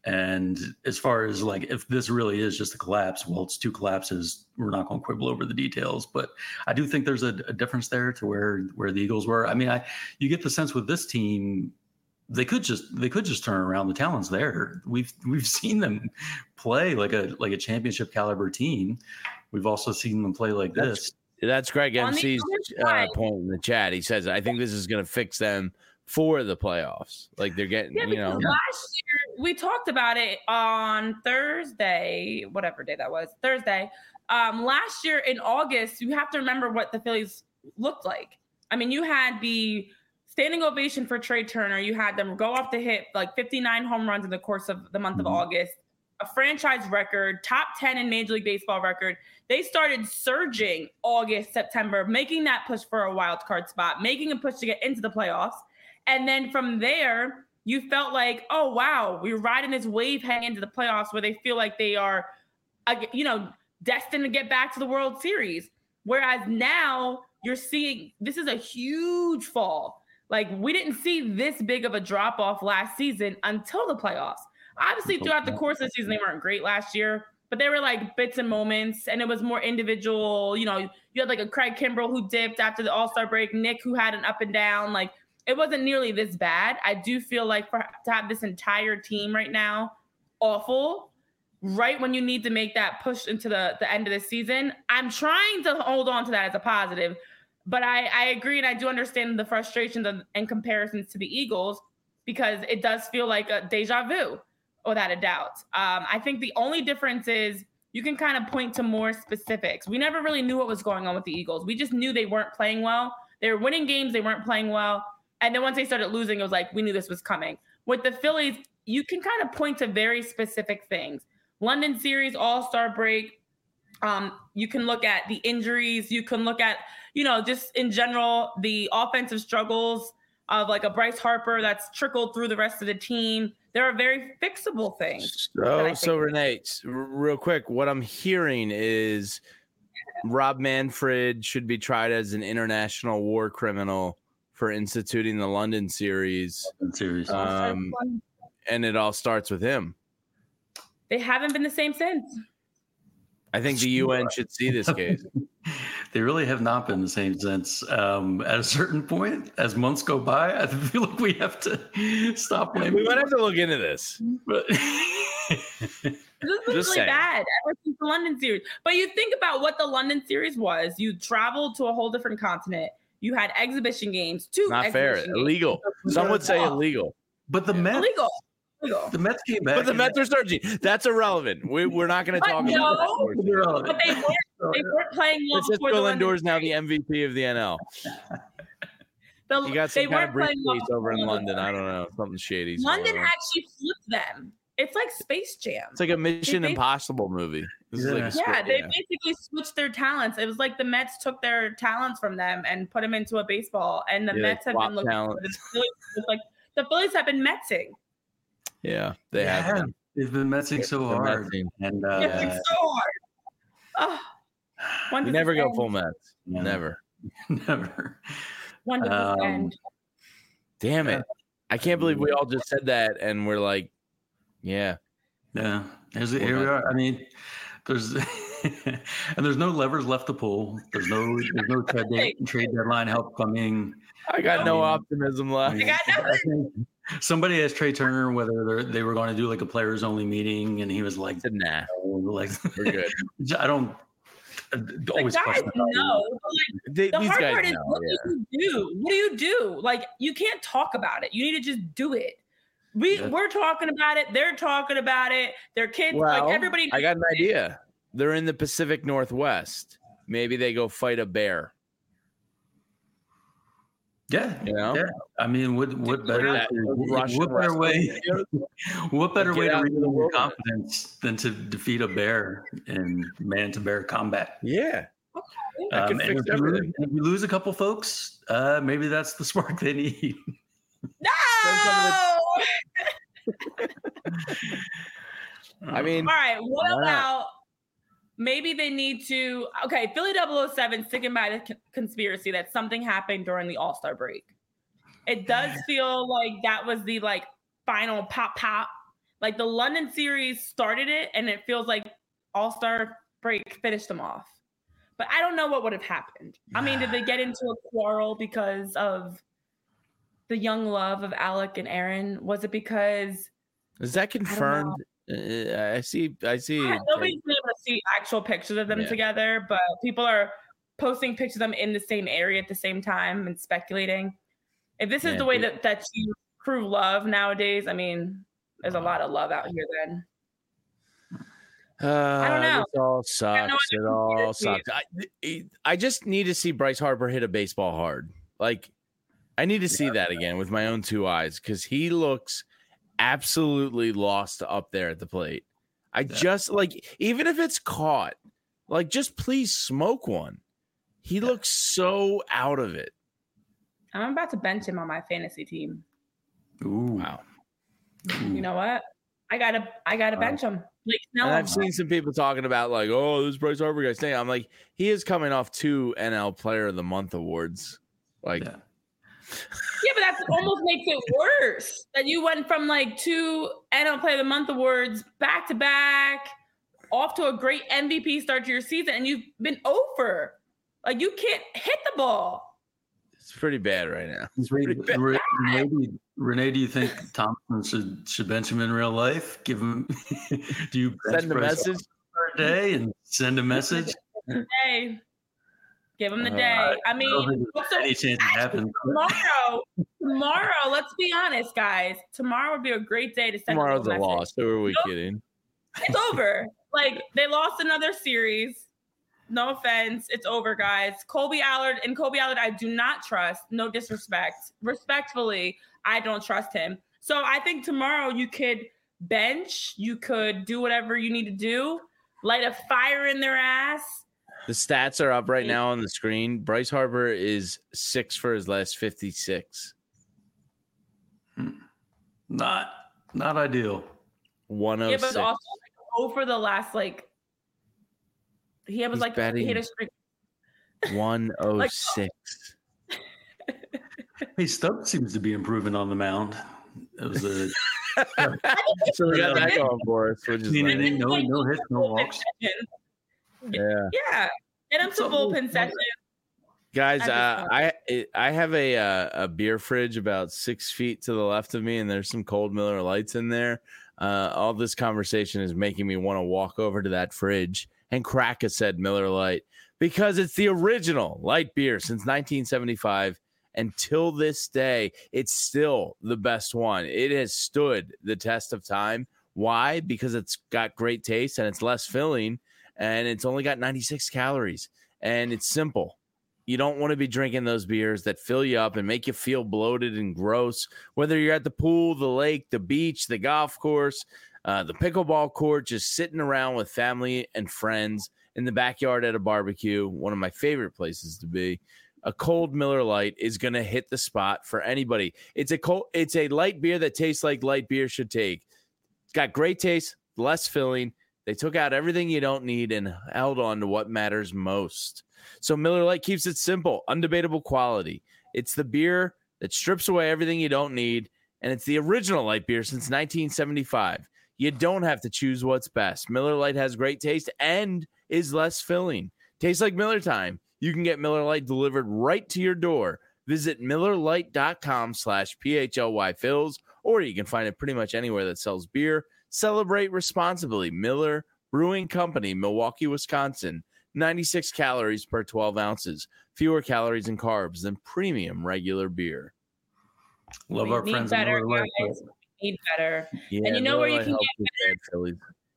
And as far as like, if this really is just a collapse, well, it's two collapses. We're not going to quibble over the details, but I do think there's a, a difference there to where, where the Eagles were. I mean, I, you get the sense with this team, they could just, they could just turn around. The talent's there. We've, we've seen them play like a, like a championship caliber team. We've also seen them play like that's, this. That's Greg M C's uh, point in the chat. He says, I think this is going to fix them for the playoffs. Like they're getting, yeah, you know. Last year, we talked about it on Thursday, whatever day that was, Thursday. Um, last year in August, you have to remember what the Phillies looked like. I mean, you had the standing ovation for Trey Turner. You had them go off the hit like fifty-nine home runs in the course of the month mm-hmm. of August. A franchise record, top ten in Major League Baseball record. They started surging August, September, making that push for a wild card spot, making a push to get into the playoffs. And then from there, you felt like, oh, wow, we're riding this wave heading into the playoffs where they feel like they are, you know, destined to get back to the World Series. Whereas now you're seeing this is a huge fall. Like we didn't see this big of a drop off last season until the playoffs. Obviously, throughout the course of the season, they weren't great last year, but they were like bits and moments, and it was more individual. You know, you had like a Craig Kimbrell who dipped after the All-Star break, Nick who had an up and down. Like it wasn't nearly this bad. I do feel like for to have this entire team right now, awful, right when you need to make that push into the, the end of the season, I'm trying to hold on to that as a positive. But I, I agree, and I do understand the frustrations and, and comparisons to the Eagles because it does feel like a deja vu. Without a doubt. Um, I think the only difference is you can kind of point to more specifics. We never really knew what was going on with the Eagles. We just knew they weren't playing well. They were winning games. They weren't playing well. And then once they started losing, it was like, we knew this was coming. With the Phillies, you can kind of point to very specific things. London series, All-Star break. Um, you can look at the injuries. You can look at, you know, just in general, the offensive struggles of like a Bryce Harper that's trickled through the rest of the team. There are very fixable things. So, so Renee, r- real quick, what I'm hearing is Rob Manfred should be tried as an international war criminal for instituting the London series. London series. Um, and it all starts with him. They haven't been the same since. I think the U N should see this case. They really have not been the same since. Um, at a certain point, as months go by, I feel like we have to stop blaming. We might have to look into this. But this was really saying. bad ever since the London series. But you think about what the London series was. You traveled to a whole different continent. You had exhibition games. Two not fair. Games. Illegal. Some would say illegal. But the yeah. Mets. Illegal. The Mets came back. But the Mets are surging. That's irrelevant. We, we're not going to talk no, about that. But they weren't, they weren't playing well. Francisco Lindor is now the M V P of the N L. The, he got some they kind of briefcase well over in London. I don't know. Something shady. London actually flipped them. It's like Space Jam. It's like a Mission Impossible movie. This yeah, is like yeah script, they yeah. basically switched their talents. It was like the Mets took their talents from them and put them into a baseball. And the yeah, Mets have been looking for the Phillies. Like the Phillies have been Metsing. Yeah, they yeah, have been. They've been messing so hard. Metsing. And uh, yeah, so hard. Oh, you never go end? full Mets. Yeah. Never. Never. When does um, this end? Damn it. I can't believe we all just said that and we're like, yeah. Yeah. Here's, here we are. I mean, there's and there's no levers left to pull. There's no there's no trade, trade deadline help coming. I got no optimism left. I got nothing. Somebody asked Trey Turner whether they were going to do like a players only meeting, and he was like, "Nah, like we're good." I don't always the guys know. Like, they, the these hard guys part is, know, what yeah. do you do? What do you do? Like, you can't talk about it. You need to just do it. We yeah. we're talking about it. They're talking about it. Their kids, well, like everybody. I got an idea. They're in the Pacific Northwest. Maybe they go fight a bear. Yeah, you know. Yeah. I mean, what what better what, what better way what better way to read your confidence than to defeat a bear in man to bear combat? Yeah. Um, and, if you lose, if you lose a couple folks, uh, maybe that's the spark they need. No. I mean, all right. What about maybe they need to? Okay, Philly double oh seven sticking by the c- conspiracy that something happened during the All-Star break. It does feel like that was the like final pop pop. Like the London series started it, and it feels like All-Star break finished them off. But I don't know what would have happened. I mean, did they get into a quarrel because of the young love of Alec and Aaron? Was it because is that confirmed? I, I see. I see. Yeah, nobody's been able to see actual pictures of them yeah. together, but people are posting pictures of them in the same area at the same time and speculating. If this is yeah, the way yeah. that that you prove love nowadays, I mean, there's a lot of love out here. Then uh, I don't know. It all sucks. It all sucks. I, I just need to see Bryce Harper hit a baseball hard. Like, I need to see yeah. that again with my own two eyes because he looks absolutely lost up there at the plate. I yeah. just like, even if it's caught, like, just please smoke one. He yeah. looks so out of it. I'm about to bench him on my fantasy team. Ooh, wow. You know what? I gotta, I gotta wow. bench him. Like, no, and I've seen some people talking about like, oh, this Bryce Harper guy staying. I'm like, he is coming off two N L Player of the Month awards. Like, yeah, yeah but that almost makes it worse that you went from like two N L Player of the Month awards back to back, off to a great M V P start to your season, and you've been over. Like, you can't hit the ball. It's pretty bad right now. It's pretty bad. Renee, Renee, do you think Thompson should should bench him in real life? Give him? Do you send a message for a day and send a message? Hey, give him the day. Uh, I mean, I so, any chance it happens tomorrow? Tomorrow, let's be honest, guys. Tomorrow would be a great day to send. Tomorrow's a, a loss. Who are we nope. kidding? It's over. Like, they lost another series. No offense. It's over, guys. Colby Allard and Colby Allard, I do not trust. No disrespect. Respectfully, I don't trust him. So I think tomorrow you could bench. You could do whatever you need to do. Light a fire in their ass. The stats are up right now on the screen. Bryce Harper is six for his last fifty-six. Not, not ideal. one oh six. Yeah, but also like, over the last, like, he was He's like, he hit a streak. one oh six. Like, hey, Stubbs seems to be improving on the mound. It was a so we got that going for us. Which is like, no, no hits, no walks. Yeah, yeah. Get him some bullpen sessions. Guys, uh, I I have a uh, a beer fridge about six feet to the left of me, and there's some cold Miller Lights in there. Uh, all this conversation is making me want to walk over to that fridge and crack a said Miller Lite because it's the original light beer since nineteen seventy-five. Until this day, it's still the best one. It has stood the test of time. Why? Because it's got great taste and it's less filling, and it's only got ninety-six calories, and it's simple. You don't want to be drinking those beers that fill you up and make you feel bloated and gross, whether you're at the pool, the lake, the beach, the golf course, uh, the pickleball court, just sitting around with family and friends in the backyard at a barbecue, one of my favorite places to be. A cold Miller Lite is going to hit the spot for anybody. It's a cold, it's a light beer that tastes like light beer should take. It's got great taste, less filling. They took out everything you don't need and held on to what matters most. So Miller Lite keeps it simple, undebatable quality. It's the beer that strips away everything you don't need, and it's the original light beer since nineteen seventy-five. You don't have to choose what's best. Miller Lite has great taste and is less filling. Tastes like Miller time. You can get Miller Lite delivered right to your door. Visit MillerLite.com slash PHLY Phils, or you can find it pretty much anywhere that sells beer. Celebrate responsibly. Miller Brewing Company, Milwaukee, Wisconsin. ninety-six calories per twelve ounces. Fewer calories and carbs than premium regular beer. Love we our friends. Better, guys. We need better. Yeah, and you know Miller where you can get better?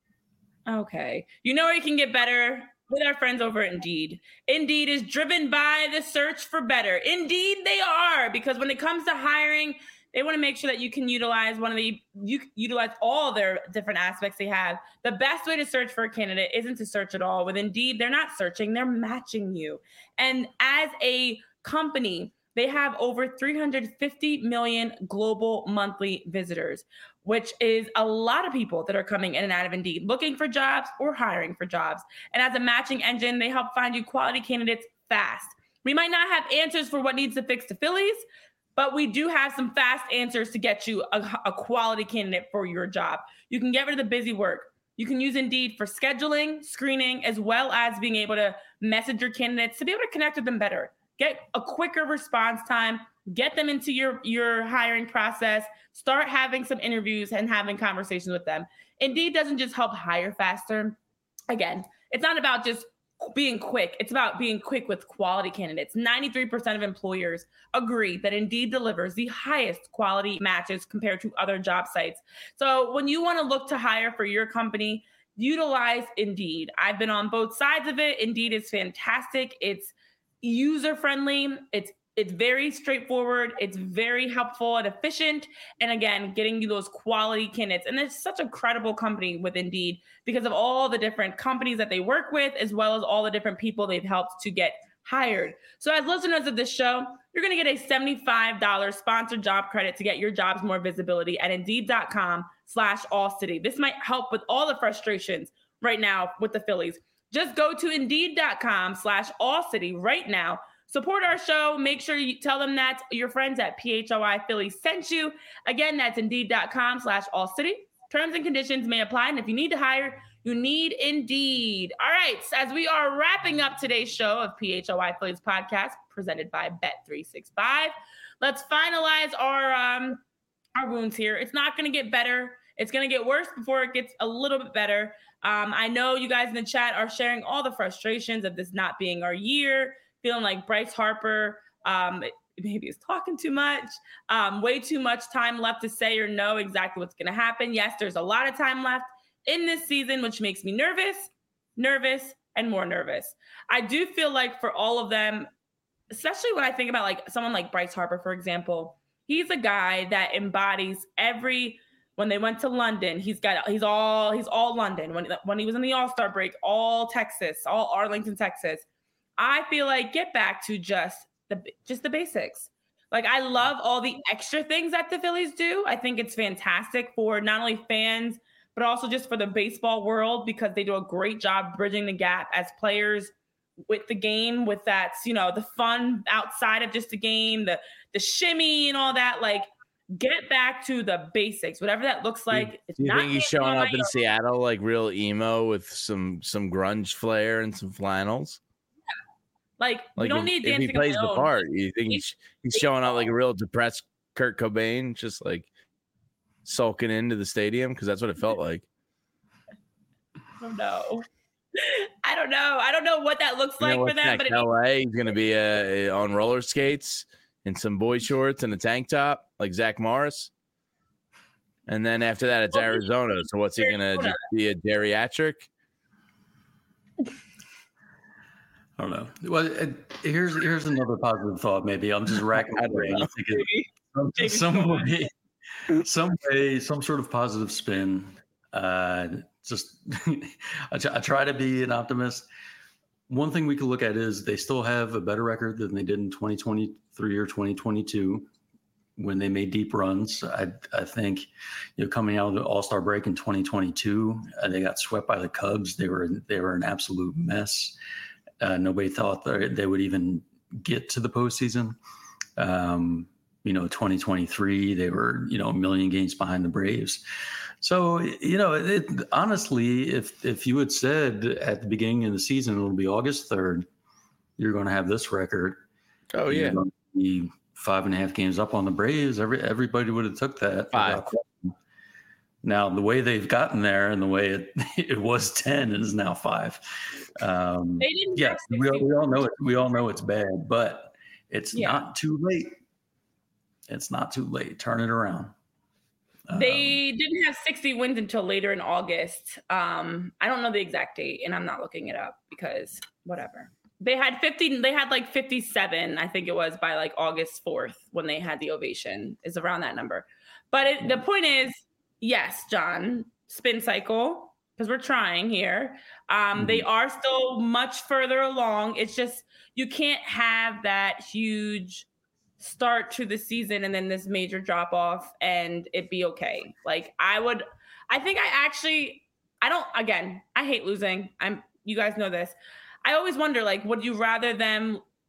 Okay. You know where you can get better? With our friends over at Indeed. Indeed is driven by the search for better. Indeed, they are, because when it comes to hiring, they want to make sure that you can utilize one of the you utilize all their different aspects they have. The best way to search for a candidate isn't to search at all. With Indeed, they're not searching, they're matching you. And as a company, they have over three hundred fifty million global monthly visitors, which is a lot of people that are coming in and out of Indeed, looking for jobs or hiring for jobs. And as a matching engine, they help find you quality candidates fast. We might not have answers for what needs to fix the Phillies, But we do have some fast answers to get you a, a quality candidate for your job. You can get rid of the busy work. You can use Indeed for scheduling, screening, as well as being able to message your candidates to be able to connect with them better. Get a quicker response time, get them into your, your hiring process, start having some interviews and having conversations with them. Indeed doesn't just help hire faster. Again, it's not about just being quick. It's about being quick with quality candidates. ninety-three percent of employers agree that Indeed delivers the highest quality matches compared to other job sites. So when you want to look to hire for your company, utilize Indeed. I've been on both sides of it. Indeed is fantastic. It's user-friendly. It's It's very straightforward. It's very helpful and efficient. And again, getting you those quality candidates. And it's such a credible company with Indeed because of all the different companies that they work with, as well as all the different people they've helped to get hired. So as listeners of this show, you're going to get a seventy-five dollars sponsored job credit to get your jobs more visibility at Indeed.com slash All City. This might help with all the frustrations right now with the Phillies. Just go to Indeed.com slash All City right now. Support our show. Make sure you tell them that your friends at P H O I Philly sent you. Again, that's Indeed.com slash All City. Terms and conditions may apply. And if you need to hire, you need Indeed. All right. So as we are wrapping up today's show of P H O I Phillies podcast presented by Bet three sixty-five, let's finalize our, um, our wounds here. It's not going to get better. It's going to get worse before it gets a little bit better. Um, I know you guys in the chat are sharing all the frustrations of this not being our year, feeling like Bryce Harper um, maybe is talking too much, um, way too much time left to say or know exactly what's going to happen. Yes, there's a lot of time left in this season, which makes me nervous, nervous, and more nervous. I do feel like for all of them, especially when I think about like someone like Bryce Harper, for example, he's a guy that embodies every, when they went to London, he's got, he's all, he's all London. When, when he was in the All-Star break, all Texas, all Arlington, Texas. I feel like get back to just the just the basics. Like I love all the extra things that the Phillies do. I think it's fantastic for not only fans, but also just for the baseball world because they do a great job bridging the gap as players with the game, with that, you know, the fun outside of just the game, the the shimmy and all that. Like get back to the basics, whatever that looks like. Do it's you not think he's showing up in Seattle like real emo with some some grunge flair and some flannels? Like, we like don't if, need if dancing he plays on the own. part, you think he's he's showing out like a real depressed Kurt Cobain, just like sulking into the stadium? Because that's what it felt like. I don't know. I don't know. I don't know what that looks You like know for them. But it, L A, he's gonna be uh, on roller skates and some boy shorts and a tank top like Zach Morris. And then after that, it's Well, Arizona. So what's he gonna Arizona. just be a geriatric? I don't know. Well, it, here's here's another positive thought. Maybe I'm just racking my brain. I'm thinking some, Maybe. some way, some way, some sort of positive spin. Uh, just I, try, I try to be an optimist. One thing we could look at is they still have a better record than they did in twenty twenty-three or twenty twenty-two when they made deep runs. I I think, you know, coming out of the All-Star break in twenty twenty-two, uh, they got swept by the Cubs. They were they were an absolute mess. Uh, nobody thought that they would even get to the postseason. Um, you know, twenty twenty-three, they were, you know, a million games behind the Braves. So, you know, it, honestly, if if you had said at the beginning of the season, it'll be August third, you're going to have this record. Oh, yeah. You're going to be five and a half games up on the Braves. Every Everybody would have took that. Five. Now, the way they've gotten there and the way it, it was ten and is now five. Um, They didn't yes, have we, all- sixty we all know it. We all know it's bad, but it's Yeah. not too late. It's not too late. Turn it around. They didn't have sixty wins until later in August. Um, I don't know the exact date, and I'm not looking it up because whatever. They had fifty. They had like fifty-seven, I think it was, by like August fourth when they had the ovation. Is around that number. But it, the point is, yes, John, spin cycle, because we're trying here. Um, Mm-hmm. They are still much further along. It's just you can't have that huge start to the season and then this major drop off and it be okay. Like I would, I think I actually, I don't, again, I hate losing. I'm, you guys know this. I always wonder, like, would you rather them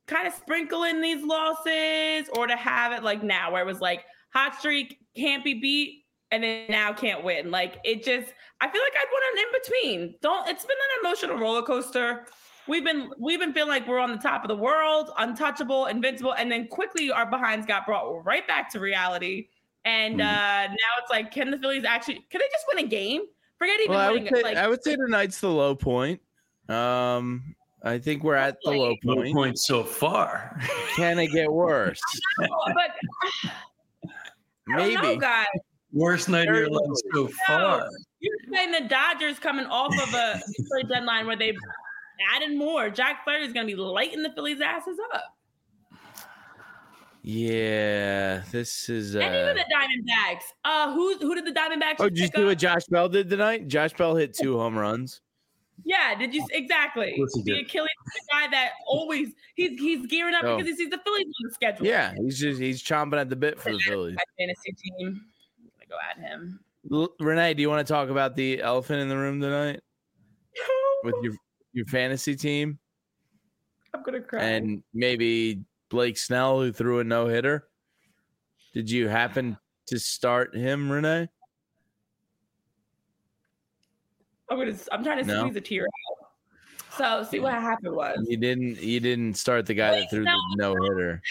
kind of sprinkle in these losses, or to have it like now where it was like hot streak can't be beat and then now can't win. Like it just, I feel like I'd want an in between. Don't, it's been an emotional roller coaster. We've been, we've been feeling like we're on the top of the world, untouchable, invincible. And then quickly our behinds got brought right back to reality. And mm-hmm. uh, now it's like, can the Phillies actually, can they just win a game? Forget even well, winning. I would, say, like, I would say tonight's the low point. Um, I think we're at the low point. Low point so far. Can it get worse? I know, but maybe. I don't know, guys. Worst night of your life so far. You're saying the Dodgers coming off of a trade deadline where they added more. Jack Flaherty is going to be lighting the Phillies' asses up. Yeah, this is. Uh... And even the Diamondbacks. Uh, who who did the Diamondbacks? Oh, did you see what Josh Bell did tonight? Josh Bell hit two home runs. Yeah, did you exactly the Achilles, the guy that always he's he's gearing up oh. because he sees the Phillies on the schedule. Yeah, he's just he's chomping at the bit for the Phillies. My fantasy team, I'm gonna go at him. L- Renee, do you want to talk about the elephant in the room tonight with your your fantasy team? I'm gonna cry. And maybe Blake Snell, who threw a no hitter. Did you happen to start him, Renee? I'm gonna. I'm trying to no. squeeze a tear out. So see what happened was you didn't. You didn't start the guy Blake that threw Snell. the no hitter.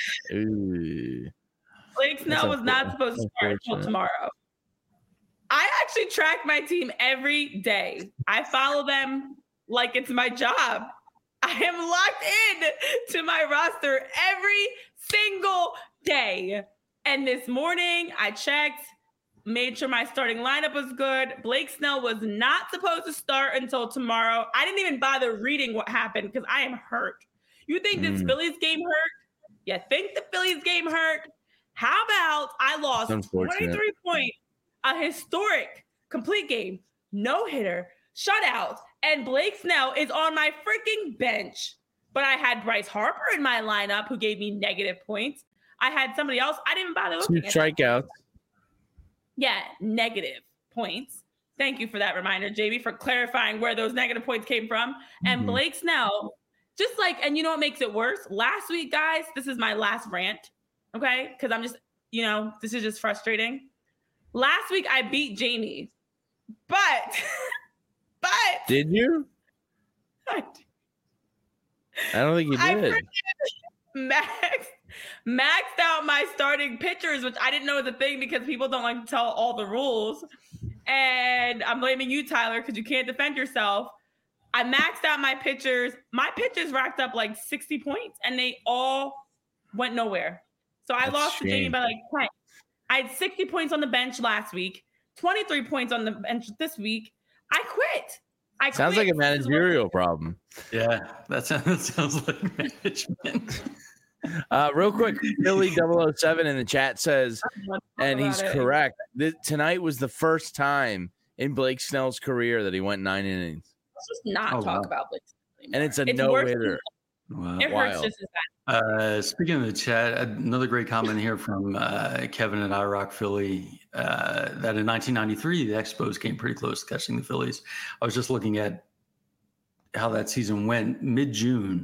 Blake Snell was not supposed to start until tomorrow. I actually track my team every day. I follow them like it's my job. I am locked in to my roster every single day. And this morning I checked. Made sure my starting lineup was good. Blake Snell was not supposed to start until tomorrow. I didn't even bother reading what happened because I am hurt. You think mm. this Phillies game hurt? You think the Phillies game hurt? How about I lost twenty-three points, a historic complete game, no hitter, shutout, and Blake Snell is on my freaking bench. But I had Bryce Harper in my lineup who gave me negative points. I had somebody else. I didn't bother looking Two at strikeouts. Yeah, negative points. Thank you for that reminder, J B, for clarifying where those negative points came from. And mm-hmm. Blake Snell, just like, and you know what makes it worse? Last week, guys, this is my last rant, okay? Because I'm just, you know, this is just frustrating. Last week, I beat Jamie, but, but. Did you? I, I don't think you did. I Max. Maxed out my starting pitchers, which I didn't know was a thing because people don't like to tell all the rules. And I'm blaming you, Tyler, because you can't defend yourself. I maxed out my pitchers. My pitchers racked up like sixty points, and they all went nowhere. So I That's lost to Jamie by like ten. I had sixty points on the bench last week, twenty-three points on the bench this week. I quit. I Sounds quit. like a managerial problem. Yeah, that sounds, that sounds like management. Uh, real quick, Philly double oh seven in the chat says, and he's it. correct. This, tonight was the first time in Blake Snell's career that he went nine innings. Let's just not oh, talk wow. about Blake Snell and it's a no hitter. Wow. It hurts just as bad. Uh, speaking of the chat, another great comment here from uh, Kevin at iRock Philly uh, that in nineteen ninety-three the Expos came pretty close to catching the Phillies. I was just looking at how that season went mid-June.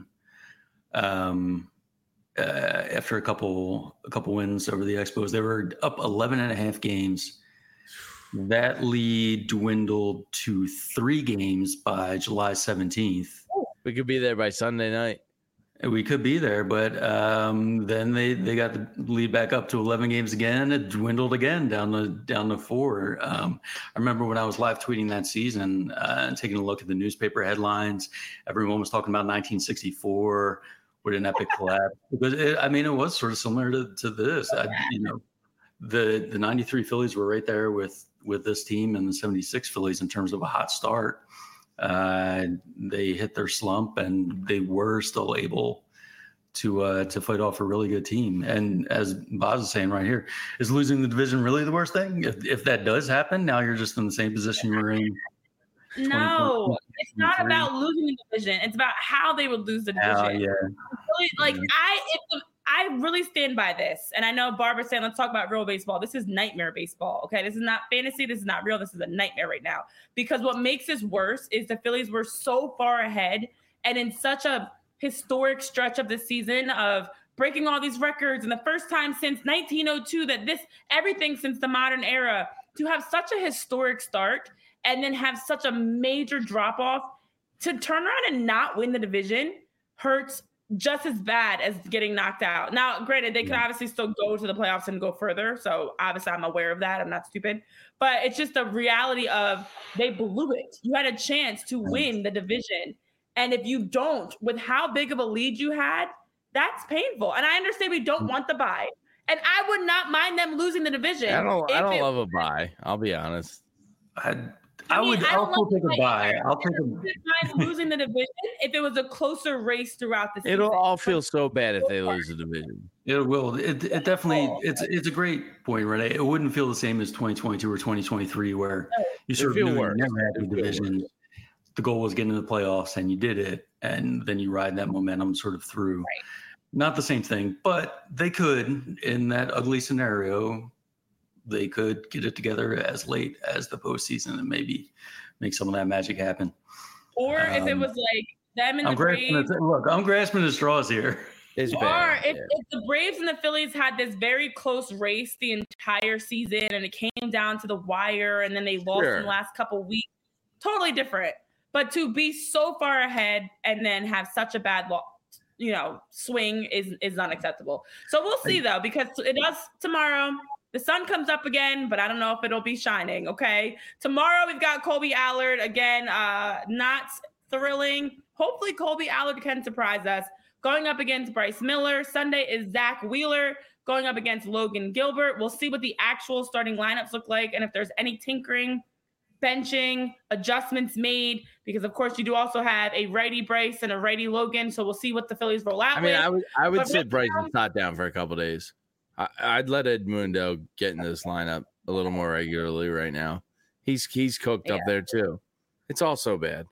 Um, Uh, after a couple a couple wins over the Expos, they were up eleven and a half games. That lead dwindled to three games by July seventeenth. We could be there by Sunday night. We could be there, but um, then they, they got the lead back up to eleven games again. It dwindled again down to down to four. Um, I remember when I was live tweeting that season uh, and taking a look at the newspaper headlines. Everyone was talking about nineteen sixty-four. With an epic collapse, because it, I mean, it was sort of similar to, to this. I, you know, the the ninety-three Phillies were right there with with this team and the seventy-six Phillies in terms of a hot start. Uh, they hit their slump, and they were still able to uh, to fight off a really good team. And as Boz is saying right here, is losing the division really the worst thing? If if that does happen, now you're just in the same position you were in. No, it's not about losing the division. It's about how they would lose the division. Oh, yeah. Really, like yeah. I, if the, I really stand by this. And I know Barbara's saying, let's talk about real baseball. This is nightmare baseball. Okay, this is not fantasy. This is not real. This is a nightmare right now. Because what makes this worse is the Phillies were so far ahead and in such a historic stretch of the season of breaking all these records, and the first time since nineteen oh two that this everything since the modern era to have such a historic start and then have such a major drop off to turn around and not win the division hurts just as bad as getting knocked out. Now, granted, they could obviously still go to the playoffs and go further. So obviously I'm aware of that. I'm not stupid, but it's just the reality of they blew it. You had a chance to win the division. And if you don't, with how big of a lead you had, that's painful. And I understand we don't want the bye. And I would not mind them losing the division. I don't I don't it, love a bye. I'll be honest. I I, I mean, would I also take a bye. I'll take a losing the division if it was a closer race throughout the season. It'll all feel so bad if they lose the division. It will. It, it definitely. It's it's a great point, Renee. It wouldn't feel the same as twenty twenty-two or twenty twenty-three, where you sort of knew you never had the division. The goal was getting to the playoffs, and you did it, and then you ride that momentum sort of through. Right. Not the same thing, but they could, in that ugly scenario, they could get it together as late as the postseason and maybe make some of that magic happen. Or um, if it was like them and I'm the Braves. Look, I'm grasping the straws here. It's or bad. If, yeah. if the Braves and the Phillies had this very close race the entire season and it came down to the wire and then they lost sure. in the last couple of weeks, totally different. But to be so far ahead and then have such a bad loss, you know, swing is is unacceptable. So we'll see though, because it does tomorrow. The sun comes up again, but I don't know if it'll be shining. Okay, tomorrow we've got Colby Allard again. Uh, not thrilling. Hopefully, Colby Allard can surprise us. Going up against Bryce Miller. Sunday is Zach Wheeler going up against Logan Gilbert. We'll see what the actual starting lineups look like, and if there's any tinkering, benching, adjustments made, because of course you do also have a righty Bryce and a righty Logan. So we'll see what the Phillies roll out I mean, with. I would I would but sit Bryce and Stott down for a couple of days. I, I'd let Edmundo get in this lineup a little more regularly right now. He's he's cooked yeah. up there too. It's all so bad.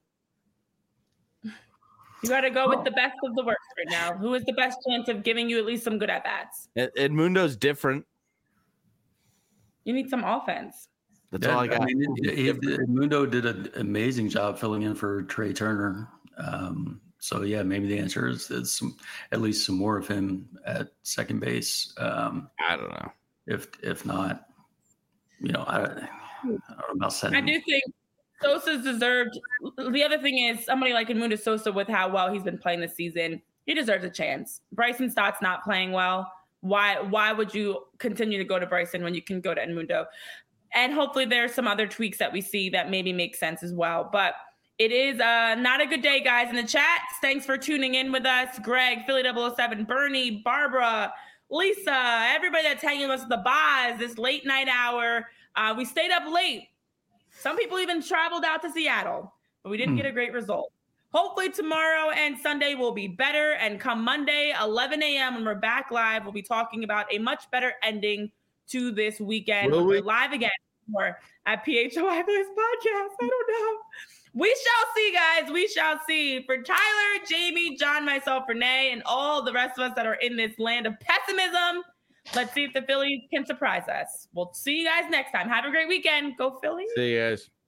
You got to go with the best of the worst right now. Who is the best chance of giving you at least some good at bats? Ed, Edmundo's different. You need some offense. That's yeah, all I got. I mean, he, Edmundo did an amazing job filling in for Trey Turner. Um, so yeah, maybe the answer is, is some, at least some more of him at second base. Um, I don't know. If if not, you know, I, I don't know about setting. I do think Sosa's deserved. The other thing is somebody like Edmundo Sosa, with how well he's been playing this season, he deserves a chance. Bryson Stott's not playing well. Why why would you continue to go to Bryson when you can go to Edmundo? And hopefully there's some other tweaks that we see that maybe make sense as well. But it is uh, not a good day, guys, in the chat. Thanks for tuning in with us. Greg, Philly double oh seven, Bernie, Barbara, Lisa, everybody that's hanging with us at the bars this late night hour. Uh, we stayed up late. Some people even traveled out to Seattle, but we didn't hmm. get a great result. Hopefully tomorrow and Sunday will be better. And come Monday, eleven a.m. when we're back live, we'll be talking about a much better ending to this weekend. Will we? We're live again more at P H O I Phillies Podcast. I don't know. We shall see, guys. We shall see. For Tyler, Jamie, John, myself, Renee, and all the rest of us that are in this land of pessimism, let's see if the Phillies can surprise us. We'll see you guys next time. Have a great weekend. Go Phillies. See you guys.